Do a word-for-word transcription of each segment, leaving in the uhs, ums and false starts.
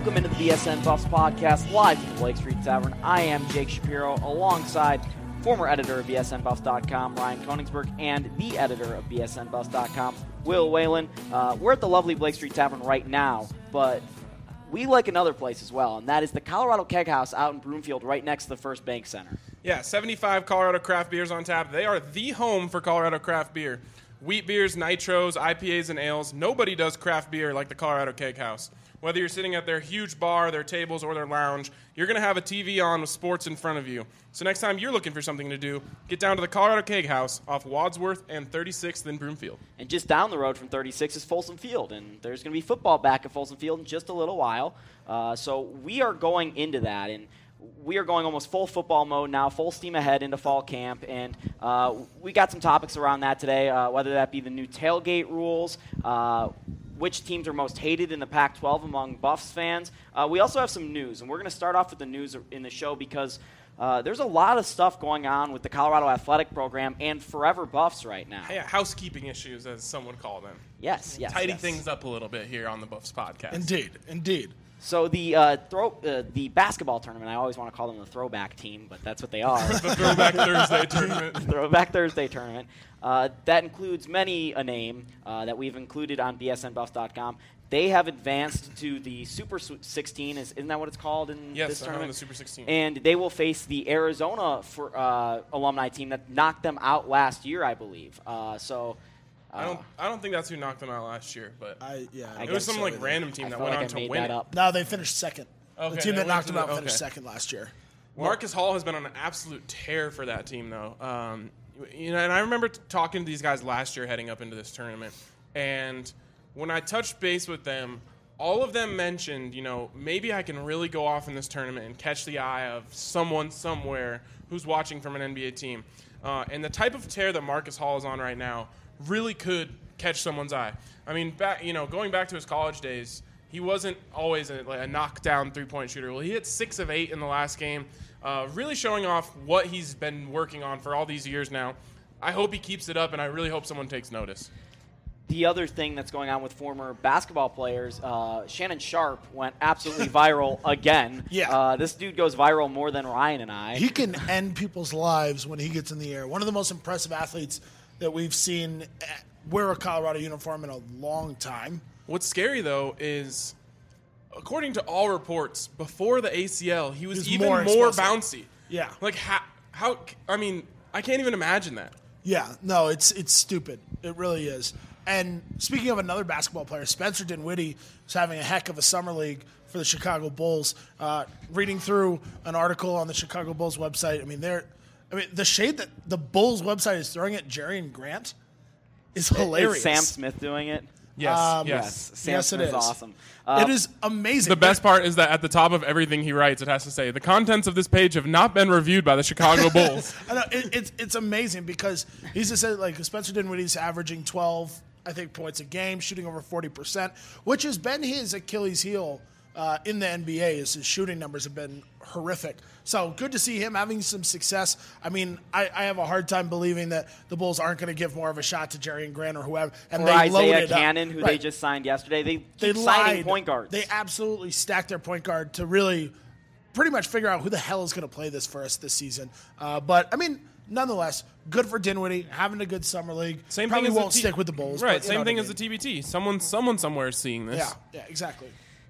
Welcome into the B S N Buffs podcast, live from the Blake Street Tavern. I am Jake Shapiro, alongside former editor of B S N Buffs dot com, Ryan Koenigsberg, and the editor of B S N Buffs dot com, Will Whalen. Uh, we're at the lovely Blake Street Tavern right now, but we like another place as well, and that is the Colorado Keg House out in Broomfield, right next to the First Bank Center. Yeah, seventy-five Colorado craft beers on tap. They are the home for Colorado craft beer. Wheat beers, nitros, I P As, and ales. Nobody does craft beer like the Colorado Keg House. Whether you're sitting at their huge bar, their tables, or their lounge, you're going to have a T V on with sports in front of you. So next time you're looking for something to do, get down to the Colorado Keg House off Wadsworth and thirty-sixth in Broomfield. And just down the road from thirty-six is Folsom Field, and there's going to be football back at Folsom Field in just a little while. Uh, so we are going into that, and we are going almost full football mode now, full steam ahead into fall camp, and uh, we got some topics around that today, uh, whether that be the new tailgate rules, uh, which teams are most hated in the Pac twelve among Buffs fans. Uh, we also have some news, and we're going to start off with the news in the show because uh, there's a lot of stuff going on with the Colorado Athletic Program and Forever Buffs right now. Yeah, housekeeping issues, as some would call them. Yes, yes, Tidy yes. things up a little bit here on the Buffs podcast. Indeed, indeed. So the uh, throw, uh, the basketball tournament, I always want to call them the throwback team, but that's what they are. The Throwback Thursday tournament. Throwback Thursday tournament. Uh, that includes many a name uh, that we've included on B S N Buffs dot com. They have advanced to the Super sixteen. Is, isn't that what it's called in yes, this tournament? Yes, the Super sixteen. And they will face the Arizona for, uh, alumni team that knocked them out last year, I believe. Uh, so... Uh, I don't. I don't think that's who knocked them out last year, but I yeah. I it was some so like either. random team I that felt went like on I to made win that it. up. No, they finished second. Okay, the team they that went knocked to them out the- finished okay. second last year. Marcus Hall has been on an absolute tear for that team, though. Um, you know, and I remember t- talking to these guys last year heading up into this tournament, and when I touched base with them, all of them mentioned, you know, maybe I can really go off in this tournament and catch the eye of someone somewhere who's watching from an N B A team. Uh, and the type of tear that Marcus Hall is on right now really could catch someone's eye. I mean, back, you know, going back to his college days, he wasn't always a, like a knockdown three-point shooter. Well, he hit six of eight in the last game, uh, really showing off what he's been working on for all these years now. I hope he keeps it up, and I really hope someone takes notice. The other thing that's going on with former basketball players, uh, Shannon Sharp went absolutely viral again. Yeah. Uh, this dude goes viral more than Ryan and I. He can end people's lives when he gets in the air. One of the most impressive athletes that we've seen wear a Colorado uniform in a long time. What's scary, though, is according to all reports, before the A C L, he was, He was even more more, explosive. bouncy. Yeah. Like, how, how, I mean, I can't even imagine that. Yeah, no, it's it's stupid. It really is. And speaking of another basketball player, Spencer Dinwiddie is having a heck of a summer league for the Chicago Bulls. Uh, reading through an article on the Chicago Bulls website, I mean, they're, I mean, the shade that the Bulls website is throwing at Jerry and Grant is hilarious. Is Sam Smith doing it? Yes, Um, yes. Sam Yes, it Smith's is. awesome. Uh, It is amazing. The best part is that at the top of everything he writes, it has to say, the contents of this page have not been reviewed by the Chicago Bulls. I know, it, it's it's amazing because he's just said like Spencer Dinwiddie's averaging twelve, I think, points a game, shooting over forty percent, which has been his Achilles heel uh, in the N B A. Is his shooting numbers have been horrific. So good to see him having some success. I mean, I, I have a hard time believing that the Bulls aren't going to give more of a shot to Jerry and Grant or whoever. And or they Isaiah loaded Cannon, up. who Right. they just signed yesterday. They keep They signing lied. point guards. They absolutely stacked their point guard to really pretty much figure out who the hell is going to play this for us this season. Uh, but, I mean, nonetheless, good for Dinwiddie, having a good summer league. Same Probably thing as won't the T- stick with the Bulls. Right, but you same know thing what as I the mean. T B T. Someone, someone somewhere is seeing this. Yeah, yeah, exactly.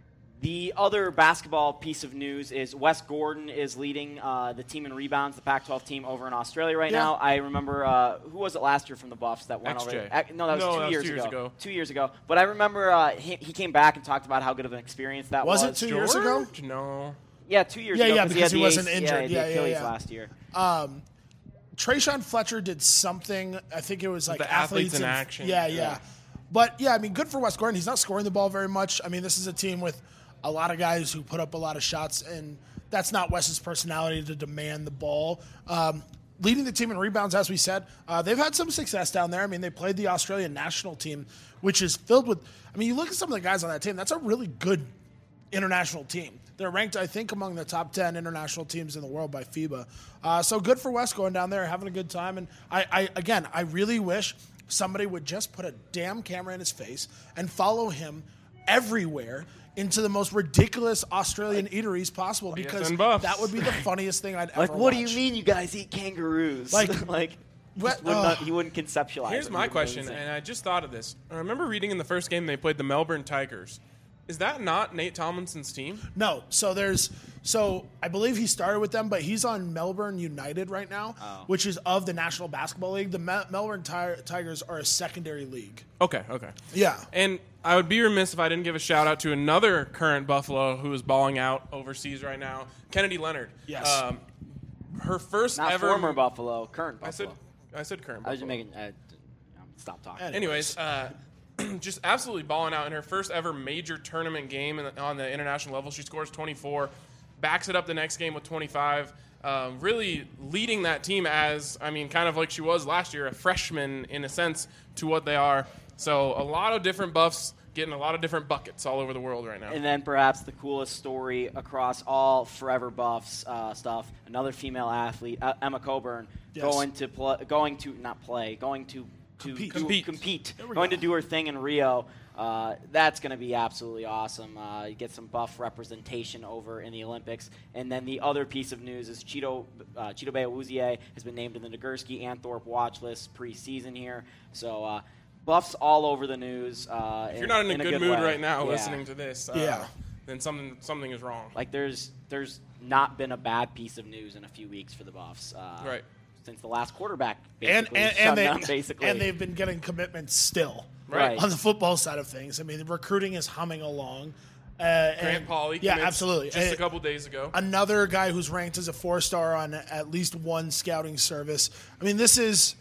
The other basketball piece of news is Wes Gordon is leading uh, the team in rebounds, the Pac twelve team over in Australia right Yeah. now. I remember, uh, who was it last year from the Buffs that went X J. over there? No, that was, No, two, that was years two years ago. ago. Two years ago. But I remember uh, he, he came back and talked about how good of an experience that was. Was it two years ago? George? No. Yeah, two years Yeah, ago. yeah, he, because had he the wasn't A C- injured. Yeah, the Yeah, yeah, Achilles yeah. last year. Trayshawn Fletcher did something. I think it was like The athletes in and- action. Yeah, yeah, But, yeah, I mean, good for Wes Gordon. He's not scoring the ball very much. I mean, this is a team with a lot of guys who put up a lot of shots, and that's not Wes's personality to demand the ball. Um, leading the team in rebounds, as we said. Uh, they've had some success down there. I mean, they played the Australian national team, which is filled with – I mean, you look at some of the guys on that team, that's a really good international team. They're ranked, I think, among the top ten international teams in the world by FIBA. Uh, so good for Wes going down there, having a good time. And, I, I again, I really wish somebody would just put a damn camera in his face and follow him everywhere into the most ridiculous Australian eateries possible because and buffs. that would be the funniest thing I'd ever Like, what watch. do you mean you guys eat kangaroos? Like- like What- just would uh, not, he wouldn't conceptualize Here's it. my It would be question, insane. and I just thought of this. I remember reading in the first game they played the Melbourne Tigers. Is that not Nate Tomlinson's team? No, so there's so I believe he started with them, but he's on Melbourne United right now, Oh. which is of the National Basketball League. The Me- Melbourne Ti- Tigers are a secondary league. Okay, okay. Yeah. And I would be remiss if I didn't give a shout out to another current Buffalo who is balling out overseas right now, Kennedy Leonard. Yes. Um, her first Not ever. former Buffalo, current I said, Buffalo. I said current. I was just Buffalo. making. Uh, stop talking. Anyways, uh, just absolutely balling out in her first ever major tournament game in the, on the international level. She scores twenty-four, backs it up the next game with twenty-five. Um, really leading that team as, I mean, kind of like she was last year, a freshman in a sense to what they are. So a lot of different buffs getting a lot of different buckets all over the world right now. And then perhaps the coolest story across all Forever Buffs uh, stuff: another female athlete, uh, Emma Coburn, Yes. going to pl- going to not play, going to to Compete. do- Compete. compete, There we going go. to do her thing in Rio. Uh, that's going to be absolutely awesome. Uh, you get some buff representation over in the Olympics. And then the other piece of news is Cheeto uh, Cheeto Awuzie has been named in the Nagurski and Thorpe watch list preseason here. So uh, buffs all over the news. Uh, if you're not in a good, mood way. right now Yeah. listening to this, uh, Yeah. then something something is wrong. Like there's there's not been a bad piece of news in a few weeks for the Buffs. Uh, Right. Since the last quarterback And basically and, shut and, they, down, basically. and they've been getting commitments still Right. on the football side of things. I mean, the recruiting is humming along. Uh, Grant and- Pauly, yeah, commits absolutely. Just Uh, a couple days ago. Another guy who's ranked as a four-star on at least one scouting service. I mean, this is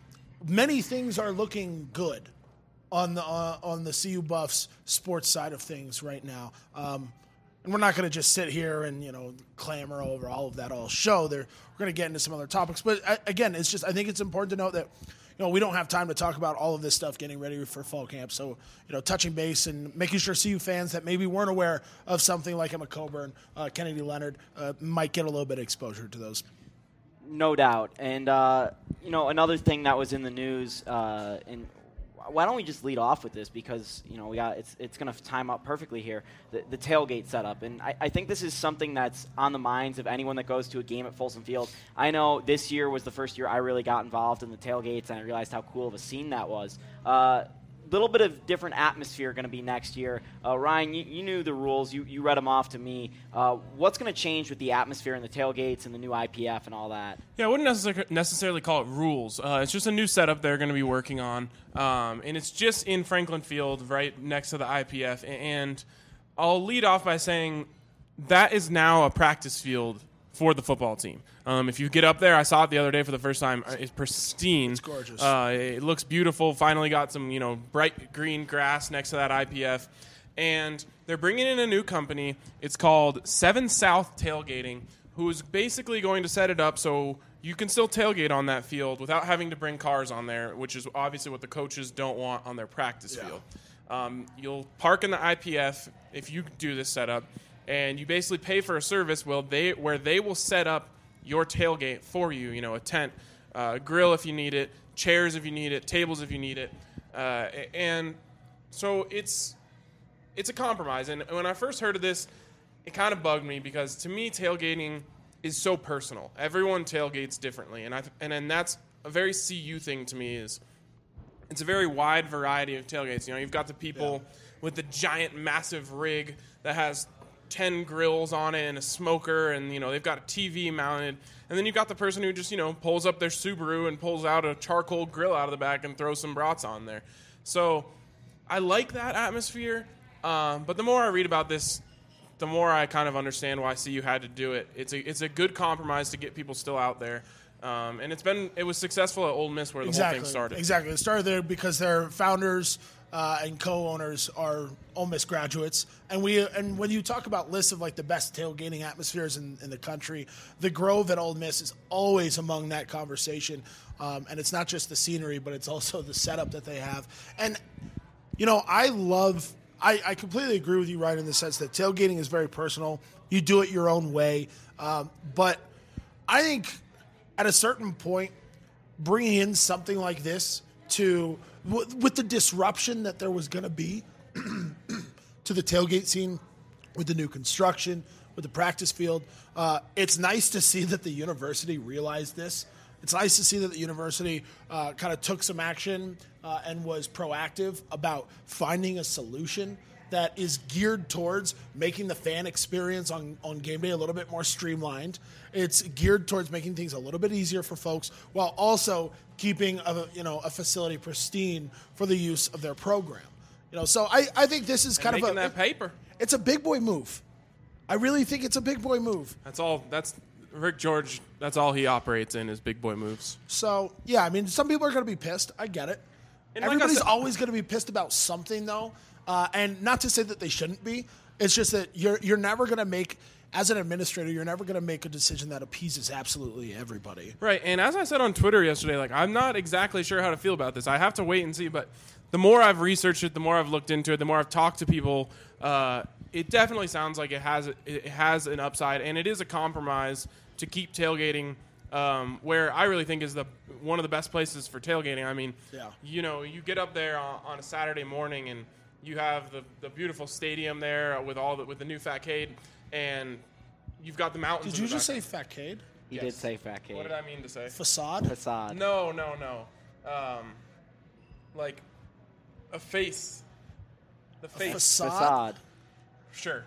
many things are looking good on the uh, on the C U Buffs sports side of things right now. Um, and we're not going to just sit here and you know clamor over all of that all show. There, we're going to get into some other topics. But uh, again, it's just I think it's important to note that. You know, we don't have time to talk about all of this stuff getting ready for fall camp. So, you know, touching base and making sure C U fans that maybe weren't aware of something like Emma Coburn, uh, Kennedy Leonard, uh, might get a little bit of exposure to those. No doubt. And, uh, you know, another thing that was in the news, uh, and why don't we just lead off with this because, you know, we got it's it's going to time up perfectly here, the, the tailgate setup. And I, I think this is something that's on the minds of anyone that goes to a game at Folsom Field. I know this year was the first year I really got involved in the tailgates, and I realized how cool of a scene that was. Uh little bit of different atmosphere going to be next year. Uh, Ryan, you, you knew the rules. You, you read them off to me. Uh, what's going to change with the atmosphere and the tailgates and the new I P F and all that? Yeah, I wouldn't necessar- necessarily call it rules. Uh, it's just a new setup they're going to be working on, um, and it's just in Franklin Field, right next to the I P F. And I'll lead off by saying that is now a practice field for the football team. Um, if you get up there, I saw it the other day for the first time. It's pristine. It's gorgeous. Uh, it looks beautiful. Finally got some, you know, bright green grass next to that I P F. And they're bringing in a new company. It's called Seven South Tailgating, who is basically going to set it up so you can still tailgate on that field without having to bring cars on there, which is obviously what the coaches don't want on their practice Yeah. field. Um, you'll park in the I P F if you do this setup, and you basically pay for a service well, they, where they will set up your tailgate for you, you know, a tent, uh, grill if you need it, chairs if you need it, tables if you need it. Uh, and so it's it's a compromise. And when I first heard of this, it kind of bugged me because to me, tailgating is so personal. Everyone tailgates differently. And I th- and, and that's a very C U thing to me is it's a very wide variety of tailgates. You know, you've got the people Yeah. with the giant, massive rig that has ten grills on it and a smoker, and you know they've got a T V mounted, and then you've got the person who just you know pulls up their Subaru and pulls out a charcoal grill out of the back and throws some brats on there. So I like that atmosphere, um, but the more I read about this, the more I kind of understand why C U had to do it. It's a it's a good compromise to get people still out there, um, and it's been it was successful at Ole Miss where the Exactly. whole thing started. Exactly. It started there because their founders uh, and co-owners are Ole Miss graduates, and we and when you talk about lists of like the best tailgating atmospheres in, in the country, the Grove at Ole Miss is always among that conversation. Um, and it's not just the scenery, but it's also the setup that they have. And you know, I love. I, I completely agree with you, Ryan, in the sense that tailgating is very personal. You do it your own way, um, but I think at a certain point, bringing in something like this to w- with the disruption that there was going to be to the tailgate scene with the new construction, with the practice field. Uh, it's nice to see that the university realized this. It's nice to see that the university uh, kind of took some action uh, and was proactive about finding a solution that is geared towards making the fan experience on, on game day a little bit more streamlined. It's geared towards making things a little bit easier for folks while also keeping a, you know, a facility pristine for the use of their program. You know, so I, I think this is kind and of a that paper. It's a big boy move. I really think it's a big boy move. That's all. That's Rick George. That's all he operates in is big boy moves. So yeah, I mean, some people are going to be pissed. I get it. And like Everybody's I said, always going to be pissed about something, though, uh, and not to say that they shouldn't be. It's just that you're you're never going to make, as an administrator, you're never going to make a decision that appeases absolutely everybody. Right, and as I said on Twitter yesterday, like I'm not exactly sure how to feel about this. I have to wait and see, but the more I've researched it, the more I've looked into it, the more I've talked to people, uh, it definitely sounds like it has it has an upside, and it is a compromise to keep tailgating um, where I really think is the one of the best places for tailgating. I mean, yeah. you know, you get up there on, on a Saturday morning, and you have the, the beautiful stadium there with all the with the new Fatcade, and you've got the mountains. Did in you the just say back. Fatcade? He Yes. did say Fatcade. What did I mean to say? Facade? Facade. No, no, no. Um, like a face. The face. facade? Facade. Sure.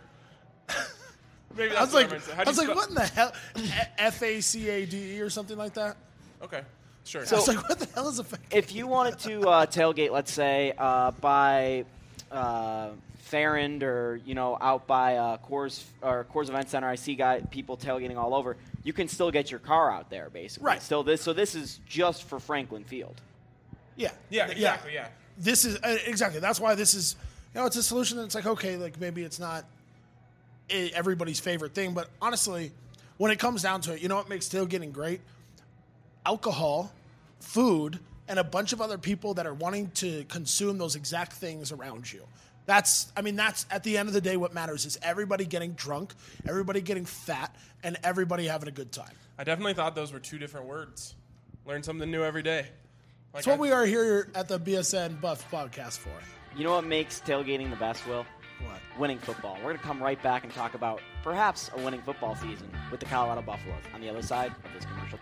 Maybe I that's was what like, I meant to say. How I do was you like, spell- what in the hell? F A C A D E or something like that? Okay, sure. I So- was like, what the hell is a Fatcade? If you wanted to uh, tailgate, let's say, uh, by uh, Farrand or, you know, out by uh, Coors or Coors Event Center, I see guy, people tailgating all over. You can still get your car out there, basically. Right. Still this, so this is just for Franklin Field. Yeah. yeah, exactly, yeah. This is uh, exactly. That's why this is, you know, it's a solution that's like, okay, like maybe it's not i- everybody's favorite thing, but honestly, when it comes down to it, you know what makes tailgating great? Alcohol, food, and a bunch of other people that are wanting to consume those exact things around you. That's, I mean, that's at the end of the day what matters is everybody getting drunk, everybody getting fat, and everybody having a good time. I definitely thought those were two different words. Learn something new every day. Like That's what I- we are here at the B S N Buff podcast for. You know what makes tailgating the best, Will? What? Winning football. We're going to come right back and talk about perhaps a winning football season with the Colorado Buffaloes on the other side of this commercial.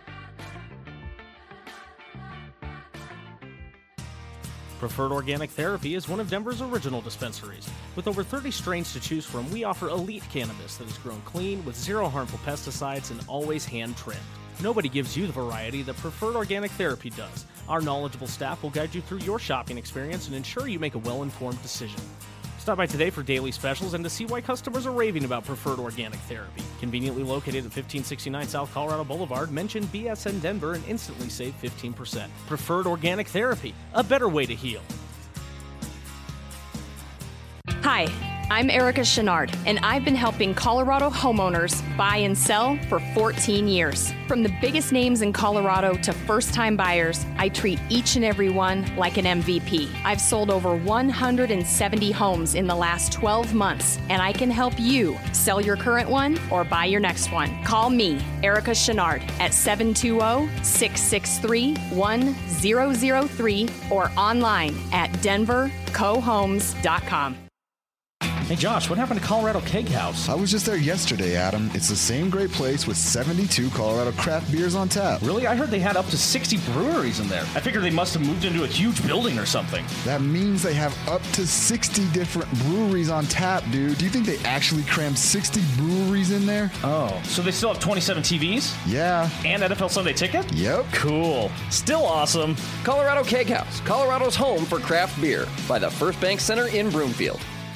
Preferred Organic Therapy is one of Denver's original dispensaries. With over thirty strains to choose from, we offer elite cannabis that is grown clean with zero harmful pesticides and always hand-trimmed. Nobody gives you the variety that Preferred Organic Therapy does. Our knowledgeable staff will guide you through your shopping experience and ensure you make a well-informed decision. Stop by today for daily specials and to see why customers are raving about Preferred Organic Therapy. Conveniently located at fifteen sixty-nine South Colorado Boulevard, mention B S N Denver and instantly save fifteen percent. Preferred Organic Therapy, a better way to heal. Hi, I'm Erica Chenard, and I've been helping Colorado homeowners buy and sell for fourteen years. From the biggest names in Colorado to first-time buyers, I treat each and every one like an M V P. I've sold over one hundred seventy homes in the last twelve months, and I can help you sell your current one or buy your next one. Call me, Erica Chenard, at seven two zero, six six three, one zero zero three or online at denver co homes dot com. Hey Josh, what happened to Colorado Keg House? I was just there yesterday, Adam. It's the same great place with seventy-two Colorado craft beers on tap. Really? I heard they had up to sixty breweries in there. I figured they must have moved into a huge building or something. That means they have up to sixty different breweries on tap, dude. Do you think they actually crammed sixty breweries in there? Oh, so they still have twenty-seven T Vs? Yeah. And N F L Sunday Ticket? Yep. Cool. Still awesome. Colorado Keg House, Colorado's home for craft beer, by the First Bank Center in Broomfield.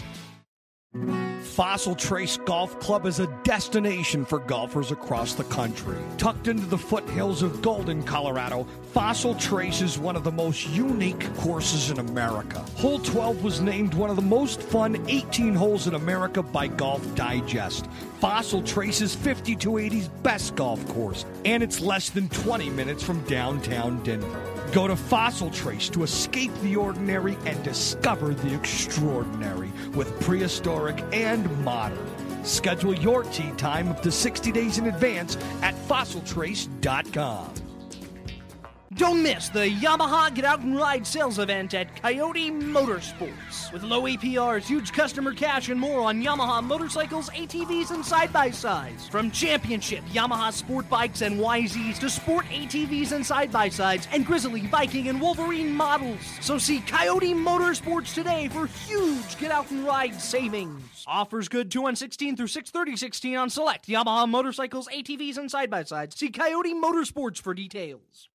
Fossil Trace Golf Club is a destination for golfers across the country. Tucked into the foothills of Golden, Colorado, Fossil Trace is one of the most unique courses in America. Hole twelve was named one of the most fun eighteen holes in America by Golf Digest. Fossil Trace is fifty-two eighty's best golf course, and it's less than twenty minutes from downtown Denver. Go to Fossil Trace to escape the ordinary and discover the extraordinary with prehistoric and modern. Schedule your tee time up to sixty days in advance at fossil trace dot com. Don't miss the Yamaha Get Out and Ride sales event at Coyote Motorsports. With low A P Rs, huge customer cash, and more on Yamaha motorcycles, A T Vs, and side-by-sides. From championship Yamaha sport bikes and Y Zs to sport A T Vs and side-by-sides and Grizzly, Viking, and Wolverine models. So see Coyote Motorsports today for huge Get Out and Ride savings. Offers good two one sixteen through six thirty sixteen on select Yamaha motorcycles, A T Vs, and side-by-sides. See Coyote Motorsports for details.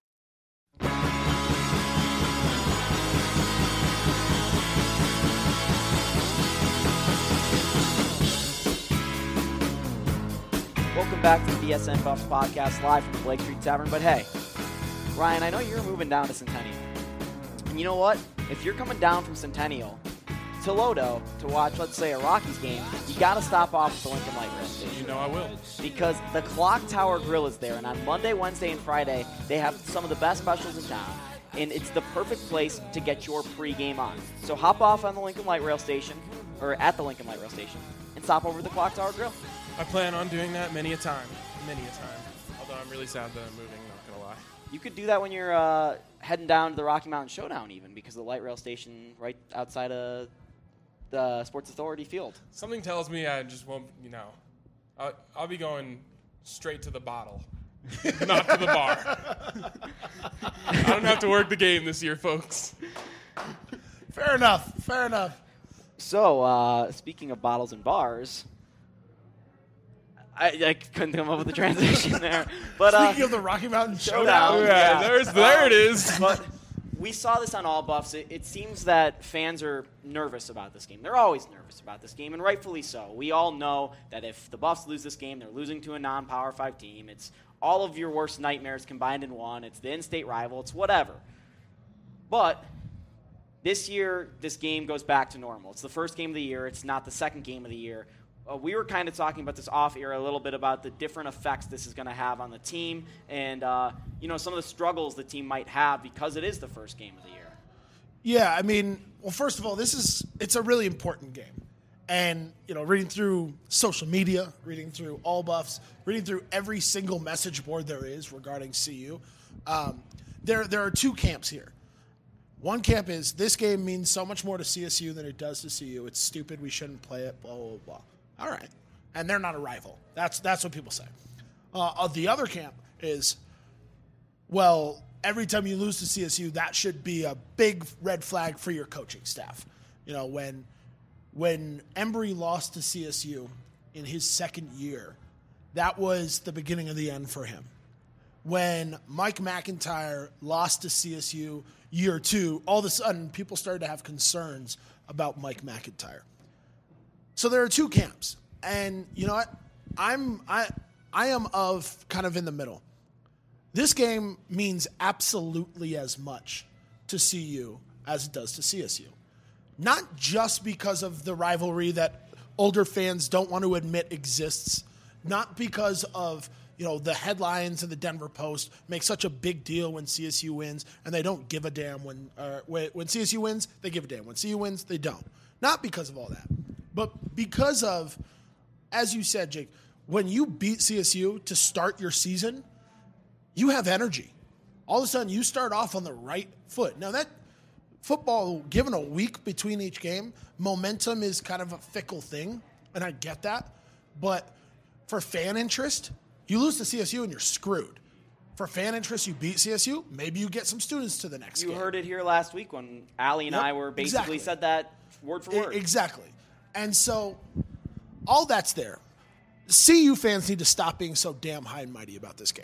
Welcome back to the B S N Buffs podcast live from the Blake Street Tavern. But hey, Ryan, I know you're moving down to Centennial. And you know what? If you're coming down from Centennial to Lodo to watch, let's say, a Rockies game, you got to stop off at the Lincoln Light Rail Station. You know I will. Because the Clock Tower Grill is there, and on Monday, Wednesday, and Friday, they have some of the best specials in town. And it's the perfect place to get your pregame on. So hop off on the Lincoln Light Rail Station, or at the Lincoln Light Rail Station, and stop over to the Clock Tower Grill. I plan on doing that many a time. Many a time. Although I'm really sad that I'm moving, not going to lie. You could do that when you're uh, heading down to the Rocky Mountain Showdown even, because the light rail station right outside of the Sports Authority field. Something tells me I just won't, you know, I'll, I'll be going straight to the bottle, not to the bar. I don't have to work the game this year, folks. Fair enough. Fair enough. So, uh, speaking of bottles and bars, I, I couldn't come up with a transition there. But speaking uh, of the Rocky Mountain Showdown, Showdown, yeah, yeah. there's there it is. But we saw this on All Buffs. It, it seems that fans are nervous about this game. They're always nervous about this game, and rightfully so. We all know that if the Buffs lose this game, they're losing to a non-Power five team. It's all of your worst nightmares combined in one. It's the in-state rival. It's whatever. But this year, this game goes back to normal. It's the first game of the year. It's not the second game of the year. Uh, we were kind of talking about this off-air a little bit about the different effects this is going to have on the team and, uh, you know, some of the struggles the team might have because it is the first game of the year. Yeah, I mean, well, first of all, this is it's a really important game. And, you know, reading through social media, reading through All Buffs, reading through every single message board there is regarding C U, um, there there are two camps here. One camp is this game means so much more to C S U than it does to C U. It's stupid. We shouldn't play it, blah, blah, blah. All right. And they're not a rival. That's that's what people say. Uh, uh, the other camp is, well, every time you lose to C S U, that should be a big red flag for your coaching staff. You know, when when Embry lost to C S U in his second year, that was the beginning of the end for him. When Mike McIntyre lost to C S U year two, all of a sudden people started to have concerns about Mike McIntyre. So there are two camps, and you know what? I'm I I am of kind of in the middle. This game means absolutely as much to C U as it does to C S U. Not just because of the rivalry that older fans don't want to admit exists, not because of, you know, the headlines in the Denver Post make such a big deal when C S U wins, and they don't give a damn when uh, when, when C S U wins, they give a damn. When C U wins, they don't. Not because of all that, but because of, as you said, Jake, when you beat C S U to start your season, you have energy. All of a sudden, you start off on the right foot. Now, that football, given a week between each game, momentum is kind of a fickle thing, and I get that. But for fan interest, you lose to C S U and you're screwed. For fan interest, you beat C S U, maybe you get some students to the next You game. heard it here last week when Allie and Yep, I were basically exactly. said that word for word. I- exactly. And so all that's there. C U fans need to stop being so damn high and mighty about this game.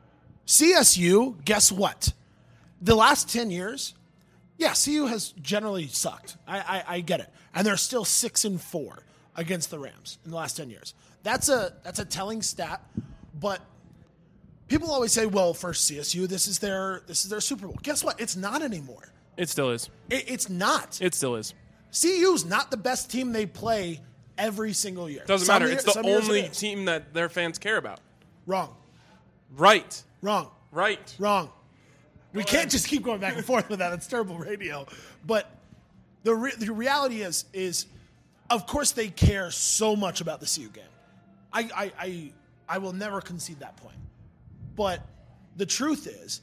C S U, guess what? The last ten years, yeah, C U has generally sucked. I, I, I get it. And they're still six and four against the Rams in the last ten years. That's a that's a telling stat, but people always say, well, for C S U, this is their this is their Super Bowl. Guess what? It's not anymore. It still is. It, it's not. It still is. C U's not the best team they play every single year. Doesn't Some matter. year- It's the some years only it is. team that their fans care about. Wrong. Right. Wrong. Right. Wrong. We can't just keep going back and forth with that. It's terrible radio. But the re- the reality is, is of course they care so much about the C U game. I, I, I, I will never concede that point. But the truth is,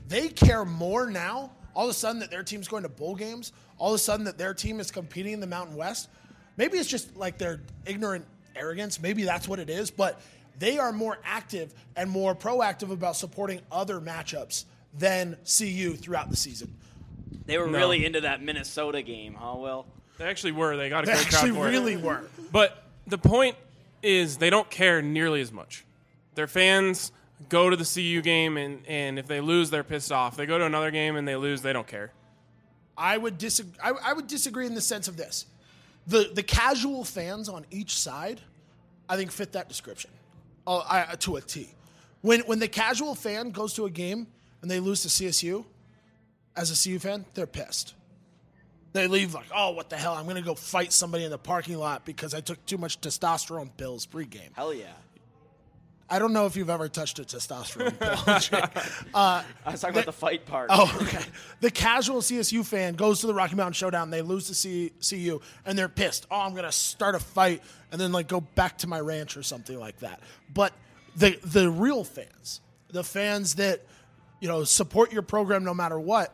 they care more now, all of a sudden that their team's going to bowl games, all of a sudden that their team is competing in the Mountain West. Maybe it's just like their ignorant arrogance. Maybe that's what it is. But they are more active and more proactive about supporting other matchups than C U throughout the season. They were No. really into that Minnesota game, huh, Will? They actually were. They got a They great actually crowd for it. really were. But the point is they don't care nearly as much. Their fans go to the C U game, and, and if they lose, they're pissed off. They go to another game and they lose, they don't care. I would disagree. I, I would disagree in the sense of this: the the casual fans on each side, I think, fit that description, uh, I, to a T. When when the casual fan goes to a game and they lose to C S U, as a C U fan, they're pissed. They leave like, oh, what the hell? I'm going to go fight somebody in the parking lot because I took too much testosterone pills pregame. Hell yeah. I don't know if you've ever touched a testosterone pill, Jake. Uh, I was talking about the fight part. Oh, okay. The casual C S U fan goes to the Rocky Mountain Showdown. They lose to C- CU, and they're pissed. Oh, I'm going to start a fight and then like go back to my ranch or something like that. But the the real fans, the fans that, you know, support your program no matter what,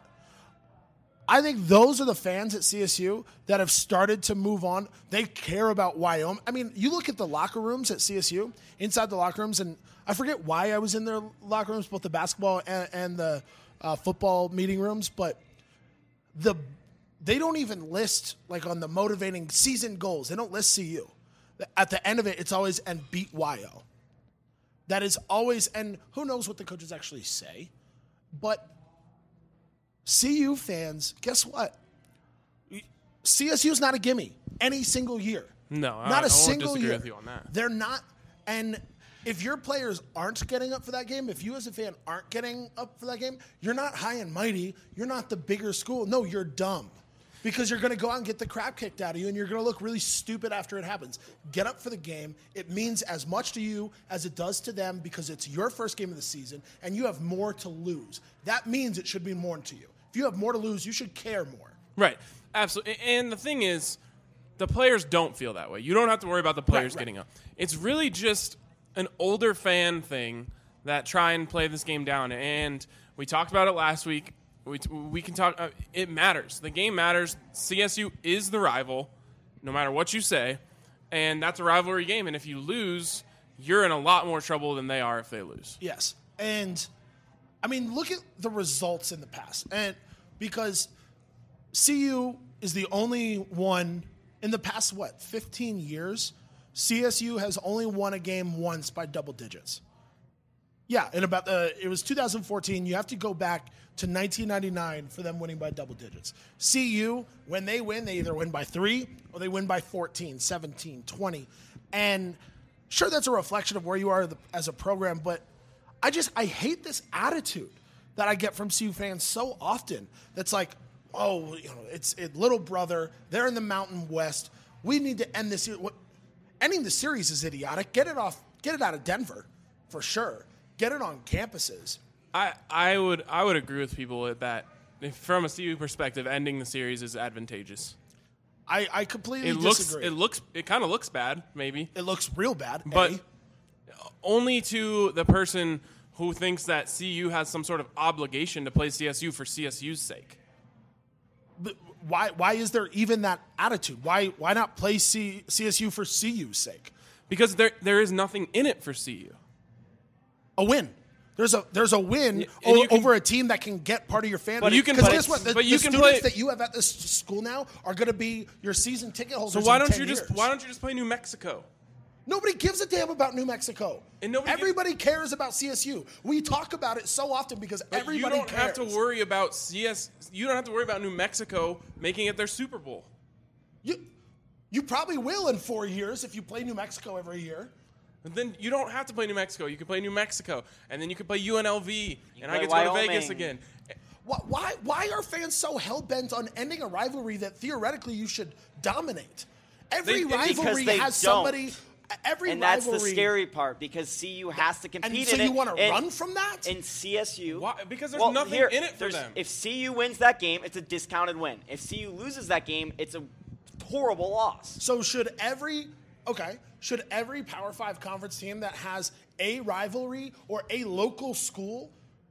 I think those are the fans at C S U that have started to move on. They care about Wyoming. I mean, you look at the locker rooms at C S U, inside the locker rooms, and I forget why I was in their locker rooms, both the basketball and, and the uh, football meeting rooms, but the they don't even list, like on the motivating season goals, they don't list C U. At the end of it, it's always, and beat Y O. That is always, and who knows what the coaches actually say, but C U fans, guess what? C S U is not a gimme any single year. No, I- not a I won't single disagree year. with you on that. They're not, and if your players aren't getting up for that game, if you as a fan aren't getting up for that game, you're not high and mighty. You're not the bigger school. No, you're dumb. Because you're going to go out and get the crap kicked out of you, and you're going to look really stupid after it happens. Get up for the game. It means as much to you as it does to them because it's your first game of the season, and you have more to lose. That means it should mean more to you. If you have more to lose, you should care more. Right. Absolutely. And the thing is, the players don't feel that way. You don't have to worry about the players Right, right. getting up. It's really just an older fan thing that try and play this game down. And we talked about it last week. We, we can talk. Uh, it matters. The game matters. C S U is the rival, no matter what you say. And that's a rivalry game. And if you lose, you're in a lot more trouble than they are if they lose. Yes. And, I mean, look at the results in the past. And because C U is the only one in the past, what, fifteen years, C S U has only won a game once by double digits. Yeah, in about the, it was two thousand fourteen. You have to go back to nineteen ninety-nine for them winning by double digits. C U, when they win, they either win by three or they win by fourteen, seventeen, twenty. And sure, that's a reflection of where you are as a program, but I just, I hate this attitude that I get from C U fans so often. That's like, oh, you know, it's it, little brother. They're in the Mountain West. We need to end this. What, ending the series is idiotic. Get it off. Get it out of Denver, for sure. Get it on campuses. I, I would I would agree with people with that. If, from a C U perspective, ending the series is advantageous. I, I completely It looks disagree. it looks it kind of looks bad, maybe. It looks real bad, but A. only to the person who thinks that C U has some sort of obligation to play C S U for C S U's sake. But why why is there even that attitude? Why why not play C, CSU for C U's sake? Because there there is nothing in it for C U. A win. There's a there's a win and o- you can- over a team that can get part of your fan. But you can Because play- guess what? The, but you the can students play- that you have at this school now are going to be your season ticket holders. So why in don't ten you just years. why don't you just play New Mexico? Nobody gives a damn about New Mexico. And nobody everybody cares about C S U. We talk about it so often because But everybody you don't cares. have to worry about C S. You don't have to worry about New Mexico making it their Super Bowl. You, you probably will in four years if you play New Mexico every year. And then you don't have to play New Mexico. You can play New Mexico, and then you can play U N L V, and I play get to go to Wyoming. Vegas again. Why, why, why are fans so hell-bent on ending a rivalry that theoretically you should dominate? Every They- rivalry because they has don't. somebody. Every And that's rivalry. the scary part because C U has to compete And so in you it. want to and- run from that? In C S U. Why? Because there's well, nothing here, in it for there's- them. If C U wins that game, it's a discounted win. If C U loses that game, it's a horrible loss. So should every okay? Should every Power Five conference team that has a rivalry or a local school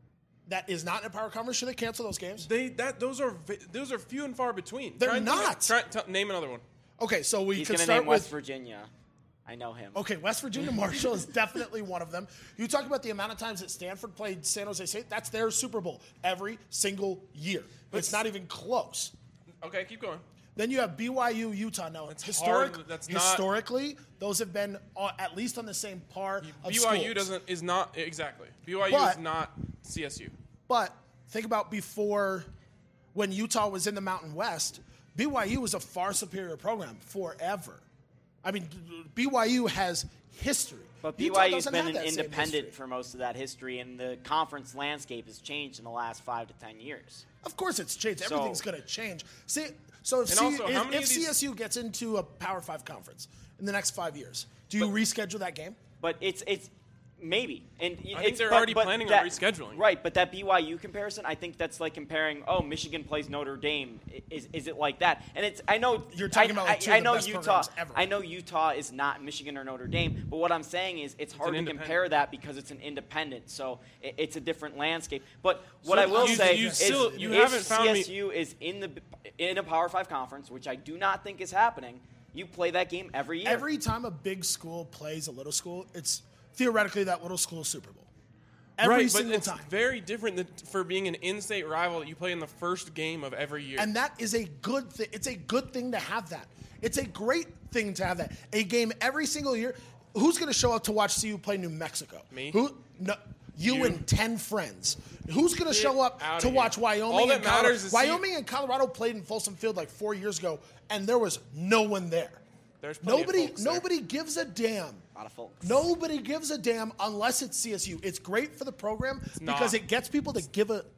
that is not in a power conference, should they cancel those games? They that those are those are few and far between. They're try and not. Try, try, name another one. Okay, so we He's could going to start name with West Virginia. I know him. Okay, West Virginia Marshall is definitely one of them. You talk about the amount of times that Stanford played San Jose State. That's their Super Bowl every single year. But it's not even close. Okay, keep going. Then you have B Y U, Utah. Now, That's historic, hard. That's not- historically, those have been uh, at least on the same par of B Y U schools. doesn't is not exactly. B Y U But- is not C S U. But think about before, when Utah was in the Mountain West, B Y U was a far superior program forever. I mean, B Y U has history. But Utah B Y U's doesn't been have an that same independent history. for most of that history, and the conference landscape has changed in the last five to ten years. Of course, it's changed. So- Everything's going to change. See, so if, And C, also, how if, many if of these- C S U gets into a Power Five conference in the next five years, do you reschedule that game? But it's it's maybe, and I think it's, they're but- already but planning on that- rescheduling. Right, but that B Y U comparison, I think that's like comparing. Oh, Michigan plays Notre Dame. I- Is is it like that? And it's I know You're talking I, about, like, I, two of I the know best Utah. programs ever. I know Utah is not Michigan or Notre Dame. But what I'm saying is it's hard an to independent. compare that because it's an independent. So it, it's a different landscape. But what So I will you- say you is still- you if haven't found me- C S U is in the in a Power Five conference, which I do not think is happening. You play that game every year. Every time a big school plays a little school, it's theoretically that little school's Super Bowl. Every right, single but it's time. very different than for being an in-state rival that you play in the first game of every year. And that is a good thing. It's a good thing to have that. It's a great thing to have that. A game every single year. Who's going to show up to watch C U play New Mexico? Me? Who? No. You, You. and ten friends. Who's going to Get show up outta to here. watch Wyoming? All that and Colorado? matters is C U Wyoming and Colorado played in Folsom Field like four years ago, and there was no one there. There's plenty of Nobody. folks there. Nobody gives a damn. A lot of folks. Nobody gives a damn unless it's C S U. It's great for the program not. because it gets people to give a.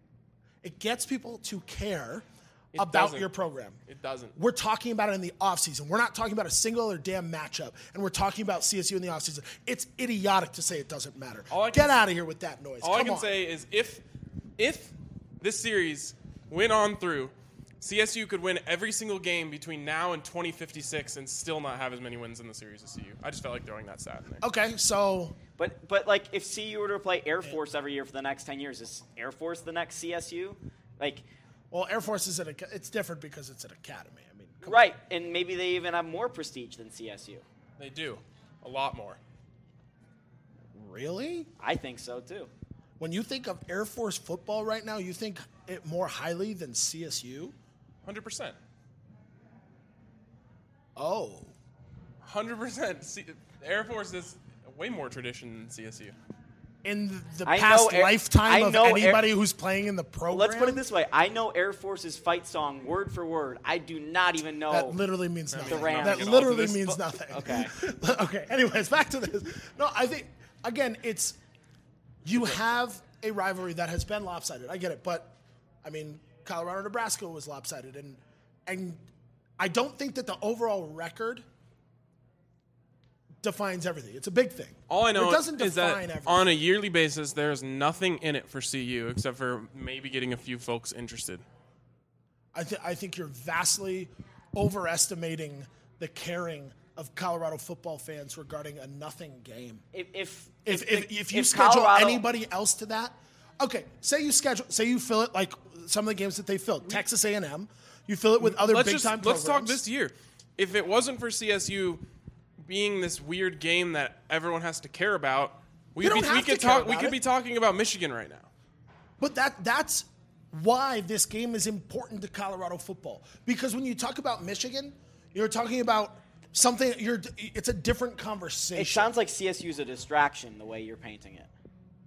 It gets people to care It about doesn't. your program. It doesn't. We're talking about it in the offseason. We're not talking about a single other damn matchup, and we're talking about C S U in the offseason. It's idiotic to say it doesn't matter. All I can Get s- out of here with that noise. All Come I can on. say is if if this series went on through, C S U could win every single game between now and twenty fifty-six and still not have as many wins in the series as C U. I just felt like throwing that stat in there. Okay, so But but like if C U were to play Air Force every year for the next ten years, is Air Force the next C S U? Like well, Air Force is at a, it's different because it's an academy. I mean, come right, and maybe they even have more prestige than C S U. They do. A lot more. on. Really? I think so too. When you think of Air Force football right now, you think it more highly than C S U? one hundred percent. Oh. one hundred percent. C- Air Force is way more tradition than C S U. In the I past know Air- lifetime I of know Air- anybody who's playing in the program? Let's put it this way: I know Air Force's fight song word for word. I do not even know That literally means nothing. the Rams. That at all literally to this, means but- nothing. Okay. okay. Anyways, back to this. No, I think again, it's you have a rivalry that has been lopsided. I get it, but I mean, Colorado, Nebraska was lopsided, and and I don't think that the overall record defines everything. It's a big thing. All I know it doesn't is define that everything. on a yearly basis, there's nothing in it for C U except for maybe getting a few folks interested. I, th- I think you're vastly overestimating the caring of Colorado football fans regarding a nothing game. If if If if, if, the- if you if schedule Colorado- anybody else to that, okay. Say you schedule, say you fill it like some of the games that they filled. Texas A and M, you fill it with other let's big just time. let's talk programs. this year. If it wasn't for C S U being this weird game that everyone has to care about, we'd You be, don't we have could to care talk. We about could it. be talking about Michigan right now. But that that's why this game is important to Colorado football. Because when you talk about Michigan, you're talking about something. You're it's a different conversation. It sounds like C S U is a distraction the way you're painting it.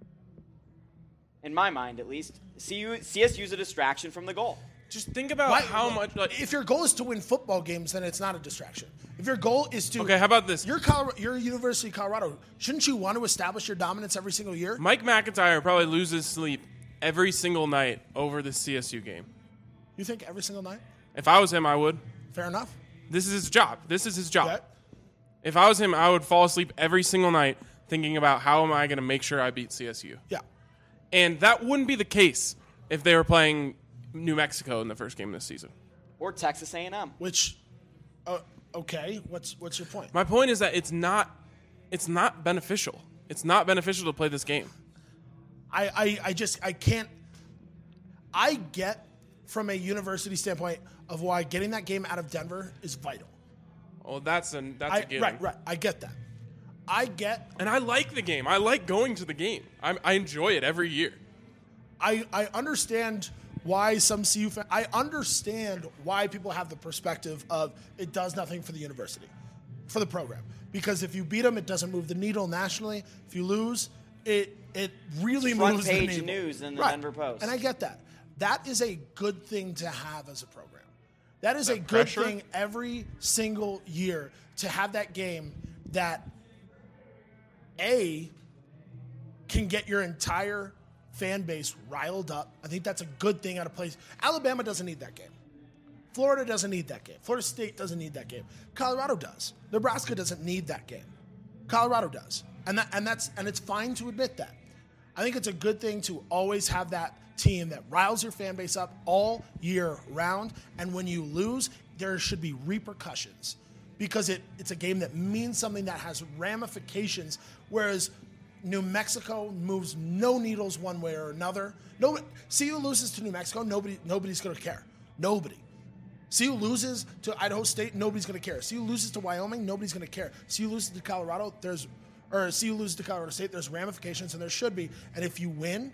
In my mind, at least, C U, C S U is a distraction from the goal. Just think about Why- how much. Like, if your goal is to win football games, then it's not a distraction. If your goal is to Okay, how about this? You're Colorado, you're University of Colorado. Shouldn't you want to establish your dominance every single year? Mike McIntyre probably loses sleep every single night over the C S U game. You think every single night? If I was him, I would. Fair enough. This is his job. This is his job. Okay. If I was him, I would fall asleep every single night thinking about how am I going to make sure I beat C S U. Yeah. And that wouldn't be the case if they were playing New Mexico in the first game this season. Or Texas A and M. Which, uh, okay. What's what's your point? My point is that it's not it's not beneficial. It's not beneficial to play this game. I, I, I just, I can't, I get from a university standpoint of why getting that game out of Denver is vital. Oh, that's a, that's I, a given. Right, right. I get that. I get. And I like the game. I like going to the game. I'm, I enjoy it every year. I, I understand why some C U fans, I understand why people have the perspective of it does nothing for the university, for the program. Because if you beat them, it doesn't move the needle nationally. If you lose, it it really Front moves the page needle. news in the Right. Denver Post. And I get that. That is a good thing to have as a program. That is That a good pressure? thing every single year to have that game that, A, can get your entire fan base riled up. I think that's a good thing out of place. Alabama doesn't need that game. Florida doesn't need that game. Florida State doesn't need that game. Colorado does. Nebraska doesn't need that game. Colorado does. And that, and that's and it's fine to admit that. I think it's a good thing to always have that team that riles your fan base up all year round. And when you lose, there should be repercussions because it, it's a game that means something that has ramifications. Whereas New Mexico moves no needles one way or another. No, C U loses to New Mexico, nobody, nobody's going to care. Nobody. C U loses to Idaho State, nobody's going to care. C U loses to Wyoming, nobody's going to care. C U loses to Colorado, there's, or C U loses to Colorado State, there's ramifications, and there should be. And if you win,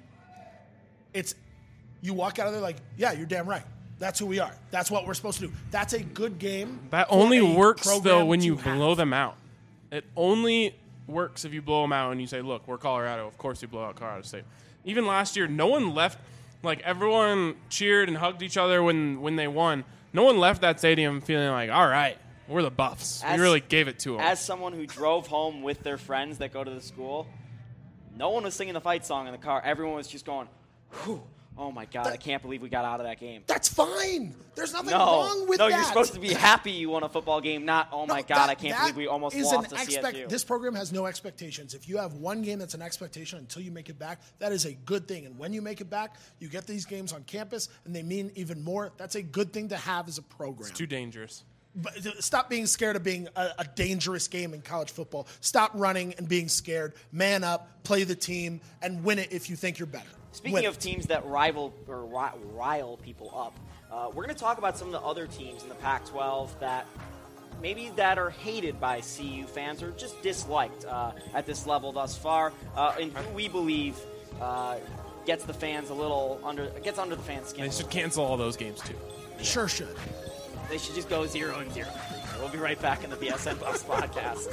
it's, you walk out of there like, yeah, you're damn right. That's who we are. That's what we're supposed to do. That's a good game. That for only a works, though, program when to you have. blow them out. It only works if you blow them out and you say, look, we're Colorado. Of course we blow out Colorado State. Even last year, no one left. Like, everyone cheered and hugged each other when, when they won. No one left that stadium feeling like, all right, we're the Buffs. As- we really gave it to them. As someone who drove home with their friends that go to the school, no one was singing the fight song in the car. Everyone was just going, whew, oh, my God, I can't believe we got out of that game. That's fine. There's nothing No, wrong with no, that. you're supposed to be happy you won a football game, not, oh, my No, God, that- I can't that believe we almost is lost an to expect- C S U. This program has no expectations. If you have one game that's an expectation until you make it back, that is a good thing. And when you make it back, you get these games on campus, and they mean even more. That's a good thing to have as a program. It's too dangerous. But stop being scared of being a, a dangerous game in college football. Stop running and being scared. Man up, play the team, and win it if you think you're better. Speaking Win of it. teams that rival or ri- rile people up, uh, we're going to talk about some of the other teams in the Pac twelve that maybe that are hated by C U fans or just disliked uh, at this level thus far, uh, and who we believe uh, gets the fans a little under gets under the fans' skin. They should cancel all those games, too. Sure should. They should just go zero and zero. We'll be right back in the B S N Buffs podcast.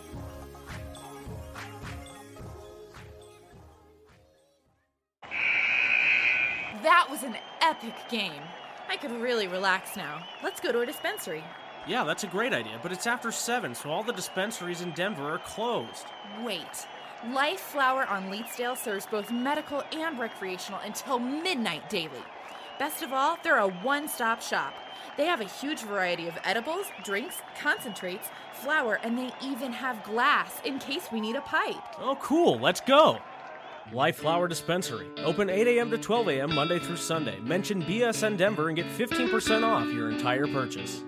That was an epic game. I could really relax now. Let's go to a dispensary. Yeah, that's a great idea, but it's after seven, so all the dispensaries in Denver are closed. Wait. Life Flower on Leetsdale serves both medical and recreational until midnight daily. Best of all, they're a one-stop shop. They have a huge variety of edibles, drinks, concentrates, flower, and they even have glass in case we need a pipe. Oh, cool. Let's go. Life Flower Dispensary. Open eight a.m. to twelve a.m. Monday through Sunday. Mention B S N Denver and get fifteen percent off your entire purchase.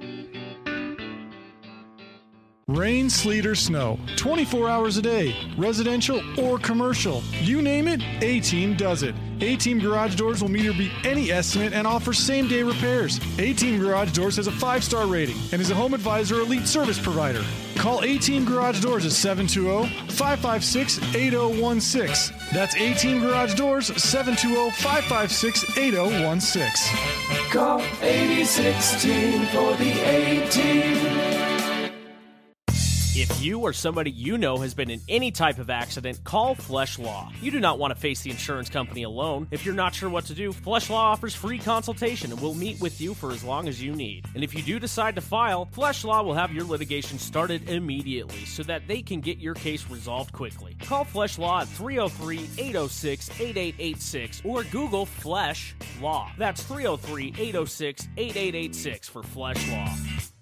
Rain, sleet, or snow, twenty-four hours a day, residential or commercial. You name it, A-Team does it. A-Team Garage Doors will meet or beat any estimate and offers same-day repairs. A-Team Garage Doors has a five-star rating and is a Home Advisor Elite service provider. Call A-Team Garage Doors at seven two zero, five five six, eight zero one six. That's A-Team Garage Doors, seven two zero, five five six, eight zero one six. Call eight one six for the A-Team. If you or somebody you know has been in any type of accident, call Flesh Law. You do not want to face the insurance company alone. If you're not sure what to do, Flesh Law offers free consultation and will meet with you for as long as you need. And if you do decide to file, Flesh Law will have your litigation started immediately so that they can get your case resolved quickly. Call Flesh Law at three oh three, eight oh six, eight eight eight six or Google Flesh Law. That's three oh three, eight oh six, eight eight eight six for Flesh Law.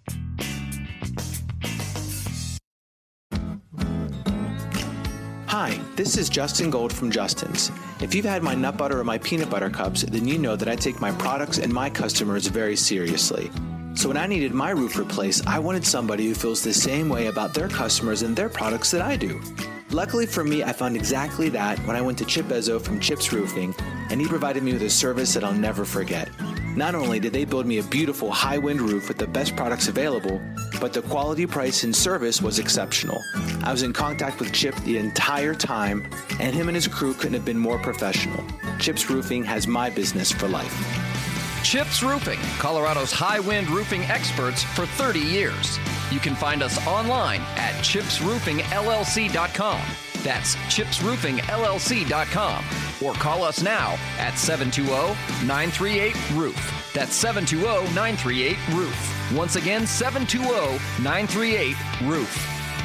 Hi, this is Justin Gold from Justin's. If you've had my nut butter or my peanut butter cups, then you know that I take my products and my customers very seriously. So when I needed my roof replaced, I wanted somebody who feels the same way about their customers and their products that I do. Luckily for me, I found exactly that when I went to Chip Ezzo from Chips Roofing, and he provided me with a service that I'll never forget. Not only did they build me a beautiful high-wind roof with the best products available, but the quality, price, and service was exceptional. I was in contact with Chip the entire time, and him and his crew couldn't have been more professional. Chips Roofing has my business for life. Chips Roofing, Colorado's high-wind roofing experts for thirty years. You can find us online at chips roofing L L C dot com. That's chips roofing L L C dot com. Or call us now at seven two zero, nine three eight, roof. That's seven two zero, nine three eight, roof. Once again, seven two zero, nine three eight, roof.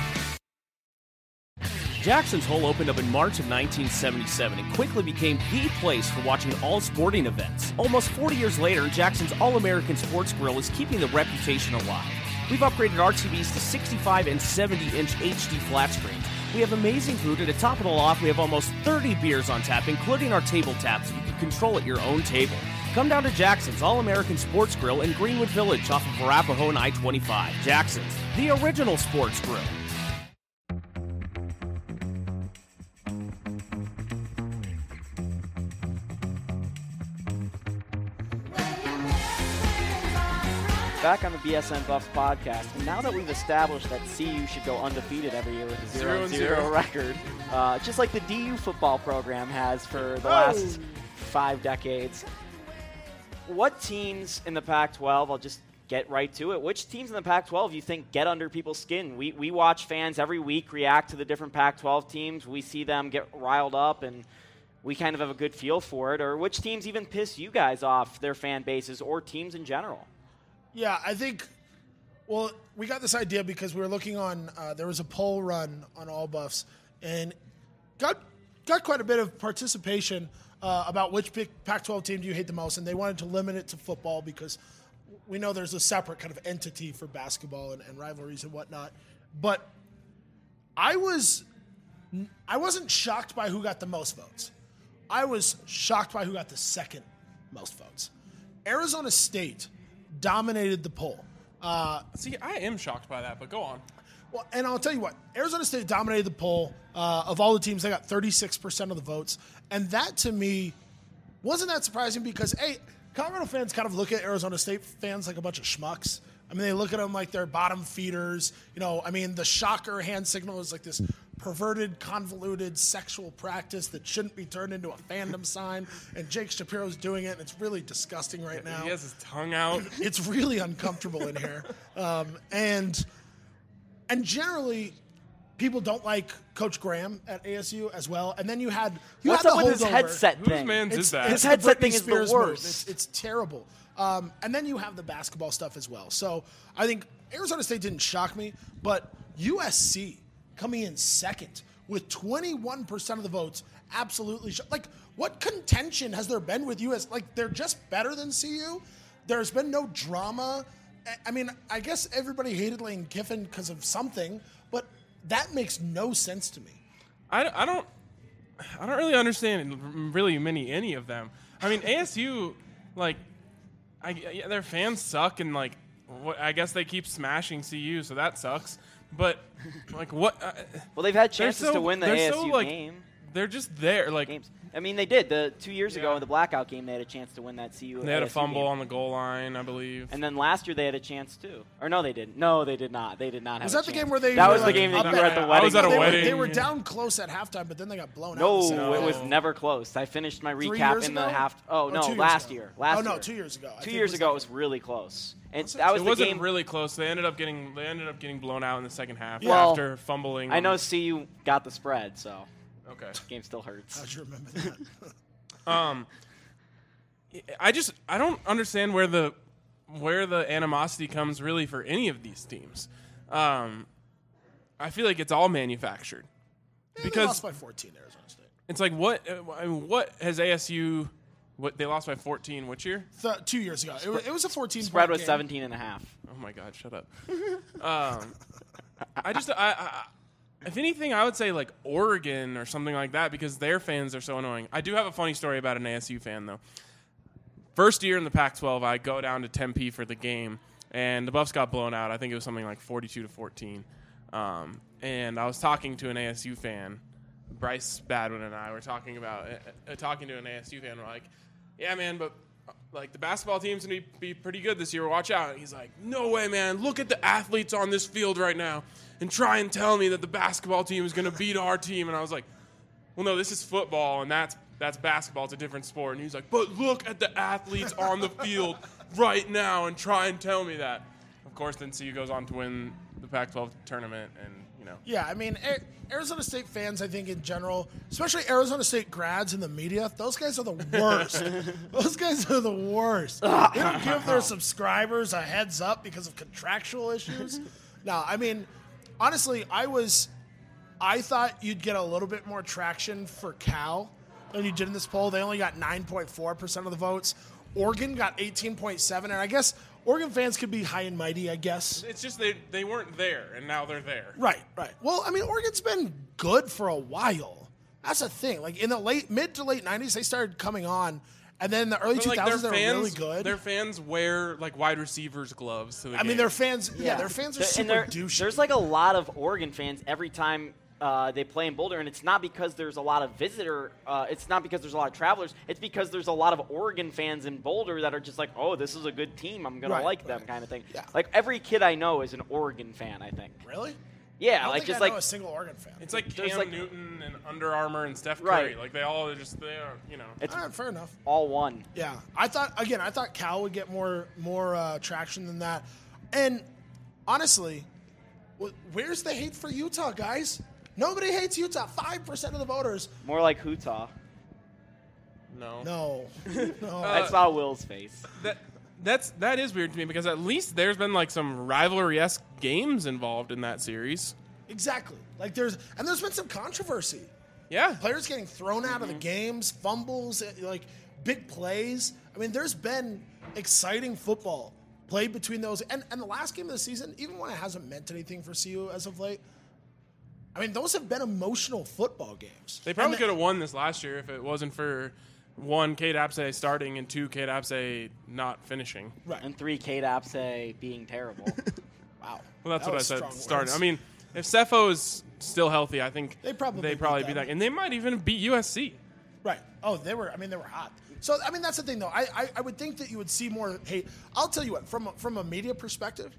Jackson's Hole opened up in March of nineteen seventy-seven and quickly became the place for watching all sporting events. Almost forty years later, Jackson's All-American Sports Grill is keeping the reputation alive. We've upgraded our T Vs to sixty-five and seventy inch H D flat screens. We have amazing food, and to top it all off, we have almost thirty beers on tap, including our table taps, so you can control at your own table. Come down to Jackson's All-American Sports Grill in Greenwood Village off of Arapahoe and I twenty-five. Jackson's, the original sports grill. Back on the B S N Buffs podcast, and now that we've established that C U should go undefeated every year with a zero and zero record, uh, just like the D U football program has for the oh. last five decades, what teams in the Pac twelve, I'll just get right to it, which teams in the Pac twelve you think get under people's skin? We, we watch fans every week react to the different Pac twelve teams. We see them get riled up, and we kind of have a good feel for it. Or which teams even piss you guys off, their fan bases, or teams in general? Yeah, I think, well, we got this idea because we were looking on, uh, there was a poll run on All Buffs, and got got quite a bit of participation uh, about which Pac twelve team do you hate the most, and they wanted to limit it to football because we know there's a separate kind of entity for basketball and, and rivalries and whatnot. But I was, I wasn't shocked by who got the most votes. I was shocked by who got the second most votes. Arizona State dominated the poll. Uh, See, I am shocked by that, but go on. Well, and I'll tell you what, Arizona State dominated the poll. Uh, of all the teams, they got thirty-six percent of the votes. And that, to me, wasn't that surprising because, hey, Colorado fans kind of look at Arizona State fans like a bunch of schmucks. I mean, they look at them like they're bottom feeders. You know, I mean, the shocker hand signal is like this perverted, convoluted sexual practice that shouldn't be turned into a fandom sign. And Jake Shapiro's doing it, and it's really disgusting right now. He has his tongue out. It's really uncomfortable in here. Um, and and generally, people don't like Coach Graham at A S U as well. And then you had you What's had up the with his headset Whose thing? man's It's- is that? it's His the headset Britney thing is Spears the move. worst. It's, it's terrible. Um, and then you have the basketball stuff as well. So I think Arizona State didn't shock me, but U S C coming in second with twenty-one percent of the votes absolutely sh- like what contention has there been with U S? Like they're just better than C U. There's been no drama. I- I mean, I guess everybody hated Lane Kiffin because of something, but that makes no sense to me. I, I don't I don't really understand really many any of them. I mean, A S U, like, I, yeah, their fans suck, and like, what, I guess they keep smashing C U, so that sucks. But like, what? Uh, well, they've had chances so, to win the they're A S U so, like, game. They're just there, like. Games. I mean, they did. The two years Yeah. ago in the blackout game, they had a chance to win that C U. They had A a S U fumble game. on the goal line, I believe. And then last year they had a chance too. Or no, they didn't. No, they did not. They did not have Was a that the chance. game where they That were was the like game that up you were at at- the I wedding. was at a they, wedding. Were, they were yeah. down close at halftime, but then they got blown No, out. in the second it was half. never close. I finished my Three recap years in the ago? half. Oh Or no, two years last ago? year. Last Oh, no, year. two years ago. I Two think years it was ago, that it was really close. And Was it? that was It the wasn't game. really close. They ended up getting they ended up getting blown out in the second half Well, after fumbling. I on- know C U got the spread, so Okay. the game still hurts. How'd you remember that? Um, I just I don't understand where the where the animosity comes really for any of these teams. Um, I feel like it's all manufactured Yeah, they because lost by fourteen, Arizona State. it's like what uh, I mean, what has A S U? What they lost by fourteen? Which year? Th- two years ago, it was, it was a fourteen. Spread point was game. seventeen and a half. Oh my God! Shut up. um, I just I, I if anything I would say like Oregon or something like that because their fans are so annoying. I do have a funny story about an A S U fan though. First year in the Pac twelve, I go down to Tempe for the game, and the Buffs got blown out. I think it was something like forty-two to fourteen. Um, and I was talking to an A S U fan, Bryce Badwin and I were talking about uh, uh, talking to an A S U fan. We're like, yeah, man, but uh, like the basketball team's gonna be, be pretty good this year. Watch out. And he's like, no way, man. Look at the athletes on this field right now, and try and tell me that the basketball team is gonna beat our team. And I was like, well, no, this is football, and that's that's basketball. It's a different sport. And he's like, but look at the athletes on the field right now, and try and tell me that. Of course, then C U goes on to win the Pac twelve tournament, and you know. Yeah, I mean, Arizona State fans, I think in general, especially Arizona State grads in the media, those guys are the worst. Those guys are the worst. They don't give their subscribers a heads up because of contractual issues. No, I mean, honestly, I was, I thought you'd get a little bit more traction for Cal than you did in this poll. They only got nine point four percent of the votes. Oregon got eighteen point seven, and I guess Oregon fans could be high and mighty, I guess. It's just they, they weren't there, and now they're there. Right, right. Well, I mean, Oregon's been good for a while. That's the thing. Like, in the late mid to late nineties, they started coming on, and then in the early But, two like, thousands, their they were fans, really good. Their fans wear, like, wide receivers' gloves to the I mean, game. their fans, yeah, their fans are There- super and there- douchey. There's like a lot of Oregon fans every time uh, they play in Boulder, and it's not because there's a lot of visitor. Uh, it's not because there's a lot of travelers. It's because there's a lot of Oregon fans in Boulder that are just like, oh, this is a good team. I'm gonna Right, like them, kind of thing. Like every kid I know is an Oregon fan. I think. Really? Yeah, I don't like think just I like know a single Oregon fan. It's like There's Cam like- Newton and Under Armour and Steph Curry. Right. Like, they all are just, they are, you know. It's All right, fair enough. all one. Yeah, I thought again. I thought Cal would get more more uh, traction than that. And honestly, wh- where's the hate for Utah, guys? Nobody hates Utah. Five percent of the voters. More like Hootah. No. No, no. I saw Will's face. That that's that is weird to me because at least there's been like some rivalry-esque games involved in that series. Exactly. Like there's and there's been some controversy. Yeah. Players getting thrown out of the games, fumbles, eh, like big plays. I mean, there's been exciting football played between those. And and the last game of the season, even when it hasn't meant anything for C U as of late, I mean, those have been emotional football games. They probably And could have won this last year if it wasn't for one, Kate Apsay starting, and two, Kate Apsay not finishing. Right. And three, Kate Apsay being terrible. Wow. Well, that's That what I was said. strong Starting. words. I mean, if Cepho is still healthy, I think They probably they beat probably them. beat that, and they might even beat U S C. Right. Oh, they were. I mean, they were hot. So, I mean, that's the thing, though. I, I, I would think that you would see more hate. I'll tell you what. From a, from a media perspective,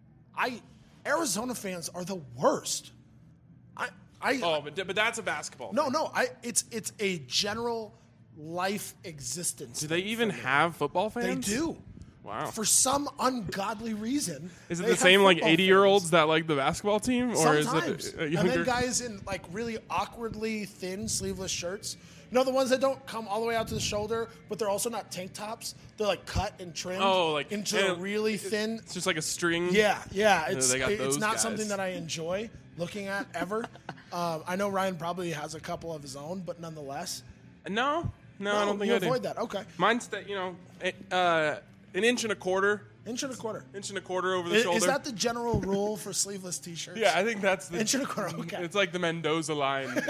I Arizona fans are the worst. I, I. Oh, but but that's a basketball. No, no. I. It's it's a general life existence. Do they thing even for me. have football They fans? do. Wow. For some ungodly reason. Is it they the have same like football eighty-year-olds fans. that like the basketball team, or Sometimes. is it a And younger? then guys in like really awkwardly thin sleeveless shirts. You know, the ones that don't come all the way out to the shoulder, but they're also not tank tops. They're like cut and trimmed Oh, like- into yeah, a really thin. It's just like a string. Yeah, yeah. Yeah, It's they got it's those not guys. something that I enjoy looking at ever. um, I know Ryan probably has a couple of his own, but nonetheless. No, no, I don't think you I do. avoid that. Okay, Mine's that you know, eh, uh, an inch and a quarter, inch and a quarter. inch and a quarter over the Is, shoulder. is that the general rule for sleeveless T-shirts? yeah, I think that's the Inch and a quarter. Okay. It's like the Mendoza line.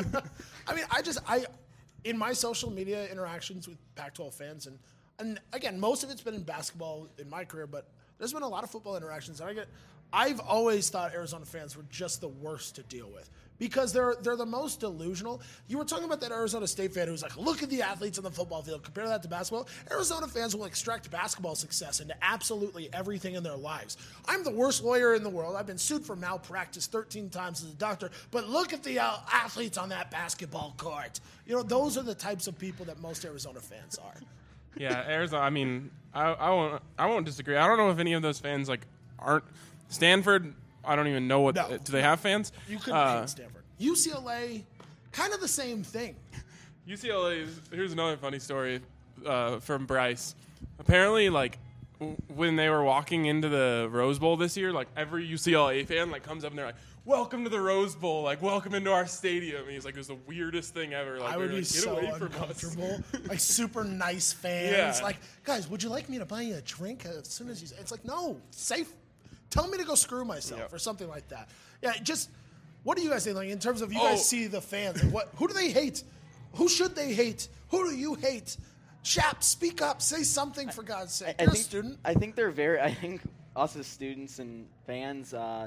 I mean, I just I in my social media interactions with Pac twelve fans, and and again, most of it's been in basketball in my career, but there's been a lot of football interactions, and I get. I've always thought Arizona fans were just the worst to deal with because they're they're the most delusional. You were talking about that Arizona State fan who's like, look at the athletes on the football field, compare that to basketball. Arizona fans will extract basketball success into absolutely everything in their lives. I'm the worst lawyer in the world. I've been sued for malpractice thirteen times as a doctor, but look at the uh, athletes on that basketball court. You know, those are the types of people that most Arizona fans are. Yeah, Arizona. I mean, I, I won't. I won't disagree. I don't know if any of those fans like aren't Stanford. I don't even know what. No. do they have fans? You couldn't Uh, hate Stanford. U C L A, kind of the same thing. U C L A. is- Here's another funny story uh, from Bryce. Apparently, like w- when they were walking into the Rose Bowl this year, like every U C L A fan like comes up and they're like, "Welcome to the Rose Bowl! Like, welcome into our stadium." And he's like, "It was the weirdest thing ever." Like, I they would were be like, Get so away from us." uncomfortable. Like super nice fans. Yeah. Like, guys, would you like me to buy you a drink as soon as you? It's like, no, safe. Tell me to go screw myself Yep. or something like that. Yeah, just what do you guys think? Like in terms of you Oh. guys see the fans, like, what? Who do they hate? Who should they hate? Who do you hate? Shap, speak up. Say something for God's sake. I You're think, a student. I think they're very. I think us as students and fans, uh, the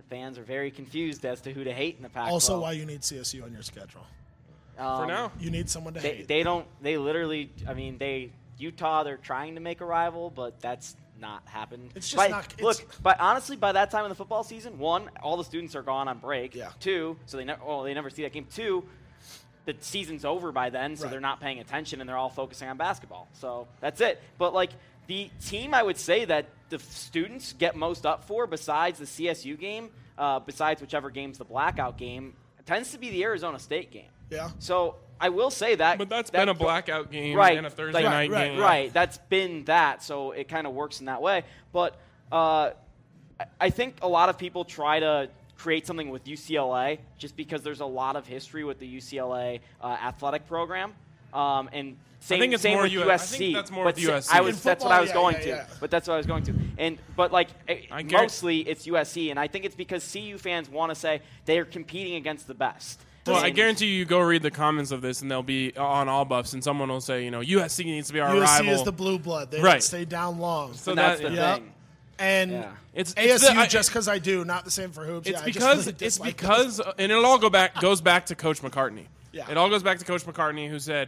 fans are very confused as to who to hate in the Pac twelve. Also, why you need C S U on your schedule. Um, For now. You need someone to they, hate. They don't. They literally. I mean, they Utah. They're trying to make a rival, but that's not happened. It's just by, not. It's, look, but honestly, by that time in the football season, one, all the students are gone on break. Yeah. Two, so they never. Well, they never see that game. Two, the season's over by then, so Right. they're not paying attention and they're all focusing on basketball. So that's it. But like the team, I would say that the students get most up for, besides the C S U game, uh, besides whichever game's the blackout game, tends to be the Arizona State game. Yeah. So I will say that. But that's that been a blackout game right, and a Thursday like, night right, game. Right. That's been that. So it kind of works in that way. But uh, I- I think a lot of people try to create something with U C L A just because there's a lot of history with the U C L A uh, athletic program. Um, and same, think it's same more with U- I U S C. think that's more but with U S C. I was, In that's what I was football, going yeah, to. yeah, yeah. But that's what I was going to. And but like eh, I guarant- mostly it's U S C, and I think it's because C U fans want to say they are competing against the best. Well, I And- guarantee you, you go read the comments of this, and they'll be on All Buffs, and someone will say, you know, U S C needs to be our U S C rival. is the blue blood. They Right. don't stay down long. So and that's that- the yeah. thing. And Yeah. It's- A it's S U the- I- just because I do, not the same for hoops. It's Yeah, I just because really it's dislike because, those. and it'll all go back goes back to Coach McCartney. Yeah. It all goes back to Coach McCartney, who said,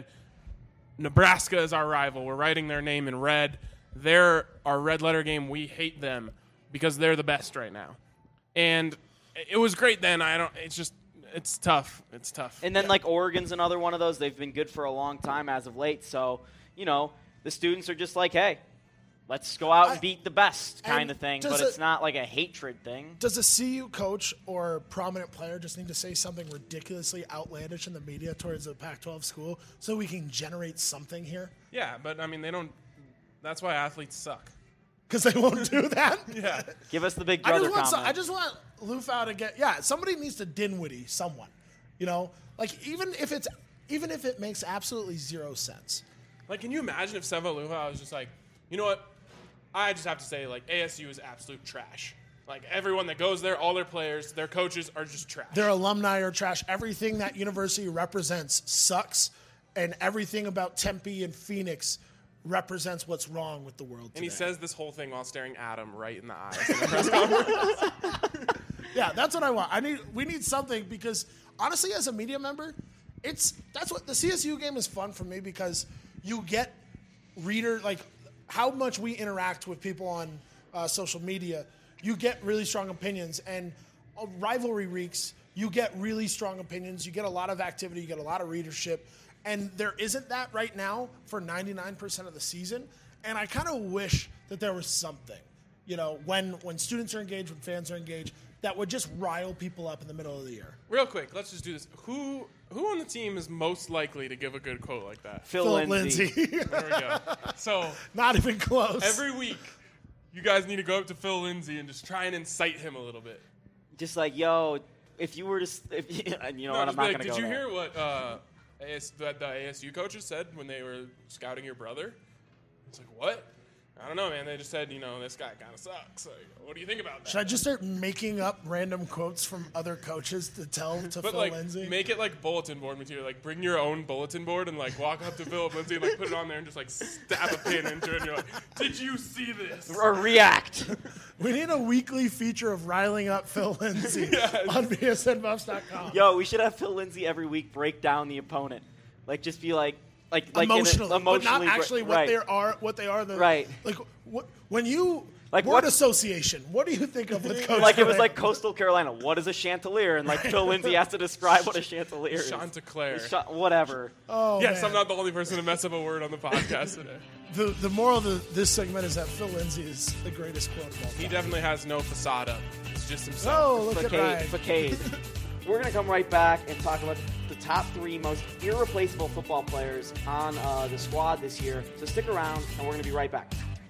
Nebraska is our rival. We're writing their name in red. They're our red letter game. We hate them because they're the best right now. And it was great then. I don't. It's just it's tough. It's tough. And then, like, Oregon's another one of those. They've been good for a long time as of late. So, you know, the students are just like, hey, let's go out and I- beat the best kind and of thing. does But it- it's not like a hatred thing. Does a C U coach or prominent player just need to say something ridiculously outlandish in the media towards a Pac twelve school so we can generate something here? Yeah, but I mean, they don't. That's why athletes suck. Because they won't do that? Yeah. Give us the big I brother just want some, comment. I just want Lufau to get yeah. Somebody needs to Dinwiddie someone, you know, like even if it's even if it makes absolutely zero sense. Like, can you imagine if Seva Luha was just like, you know what? I just have to say, like, A S U is absolute trash. Like, everyone that goes there, all their players, their coaches are just trash. Their alumni are trash. Everything that university represents sucks, and everything about Tempe and Phoenix represents what's wrong with the world and he today. says this whole thing while staring Adam right in the eyes in the press conference. Yeah, that's what I want. I need we need something because honestly, as a media member, it's that's what the C S U game is fun for me because you get reader like how much we interact with people on uh, social media. You get really strong opinions, and uh, rivalry weeks, you get really strong opinions. You get a lot of activity. You get a lot of readership, and there isn't that right now for ninety-nine percent of the season. And I kind of wish that there was something, you know, when when students are engaged, when fans are engaged, that would just rile people up in the middle of the year. Real quick, let's just do this. Who who on the team is most likely to give a good quote like that? Phil, Philip Lindsay. Lindsay. There we go. So Not even close. every week, you guys need to go up to Phil Lindsay and just try and incite him a little bit. Just like, yo, if you were to, s- if you, and you know No, what, I'm just be not like, going to did go you there. hear what uh, A S, the, the A S U coaches said when they were scouting your brother? It's like, what? I don't know, man. They just said, you know, this guy kind of sucks. Like, what do you think about that? Should I just start making up random quotes from other coaches to tell to But Phil like, Lindsay? make it like bulletin board material. Like, bring your own bulletin board and like walk up to Philip Lindsay and like put it on there and just like stab a pin into it. And you're like, did you see this? Or react. We need a weekly feature of riling up Phil Lindsay on B S N Buffs dot com. Yo, we should have Phil Lindsay every week break down the opponent. Like, just be like, like, like in a- emotionally, but emotionally, not actually br- what right. they are. What they are. The, Right. Like what, when you Like word what- association. What do you think of with Coach? Like it was Durant? like Coastal Carolina. What is a chandelier? And like Phil Lindsay has to describe what a chandelier is. Chanticleer. Cha- whatever. Oh, yes, man. I'm not the only person to mess up a word on the podcast today. The the moral of the, this segment is that Phil Lindsay is the greatest quote of all time. He definitely has no facade up. It's just himself. Oh, look at Facade. Ryan. Facade. We're going to come right back and talk about the top three most irreplaceable football players on uh, the squad this year. So stick around, and we're going to be right back.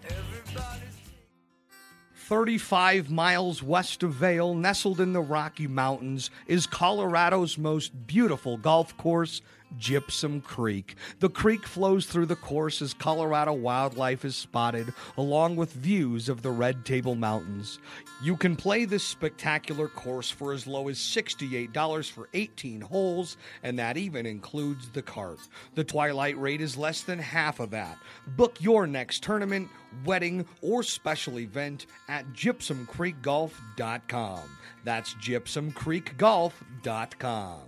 thirty-five miles west of Vail, nestled in the Rocky Mountains, is Colorado's most beautiful golf course Gypsum Creek. The creek flows through the course as Colorado wildlife is spotted, along with views of the Red Table Mountains. You can play this spectacular course for as low as sixty-eight dollars for eighteen holes, and that even includes the cart. The twilight rate is less than half of that. Book your next tournament, wedding, or special event at gypsum creek golf dot com. That's gypsum creek golf dot com.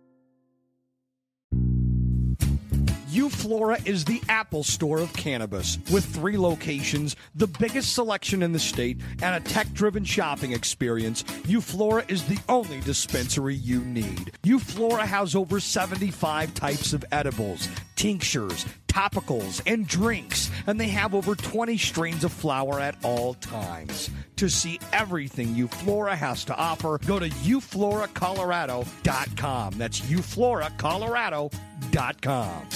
Euflora is the Apple Store of cannabis. With three locations, the biggest selection in the state, and a tech-driven shopping experience, Euflora is the only dispensary you need. Euflora has over seventy-five types of edibles, tinctures, topicals, and drinks, and they have over twenty strains of flower at all times. To see everything Euflora has to offer, go to euflora colorado dot com. That's euflora colorado dot com.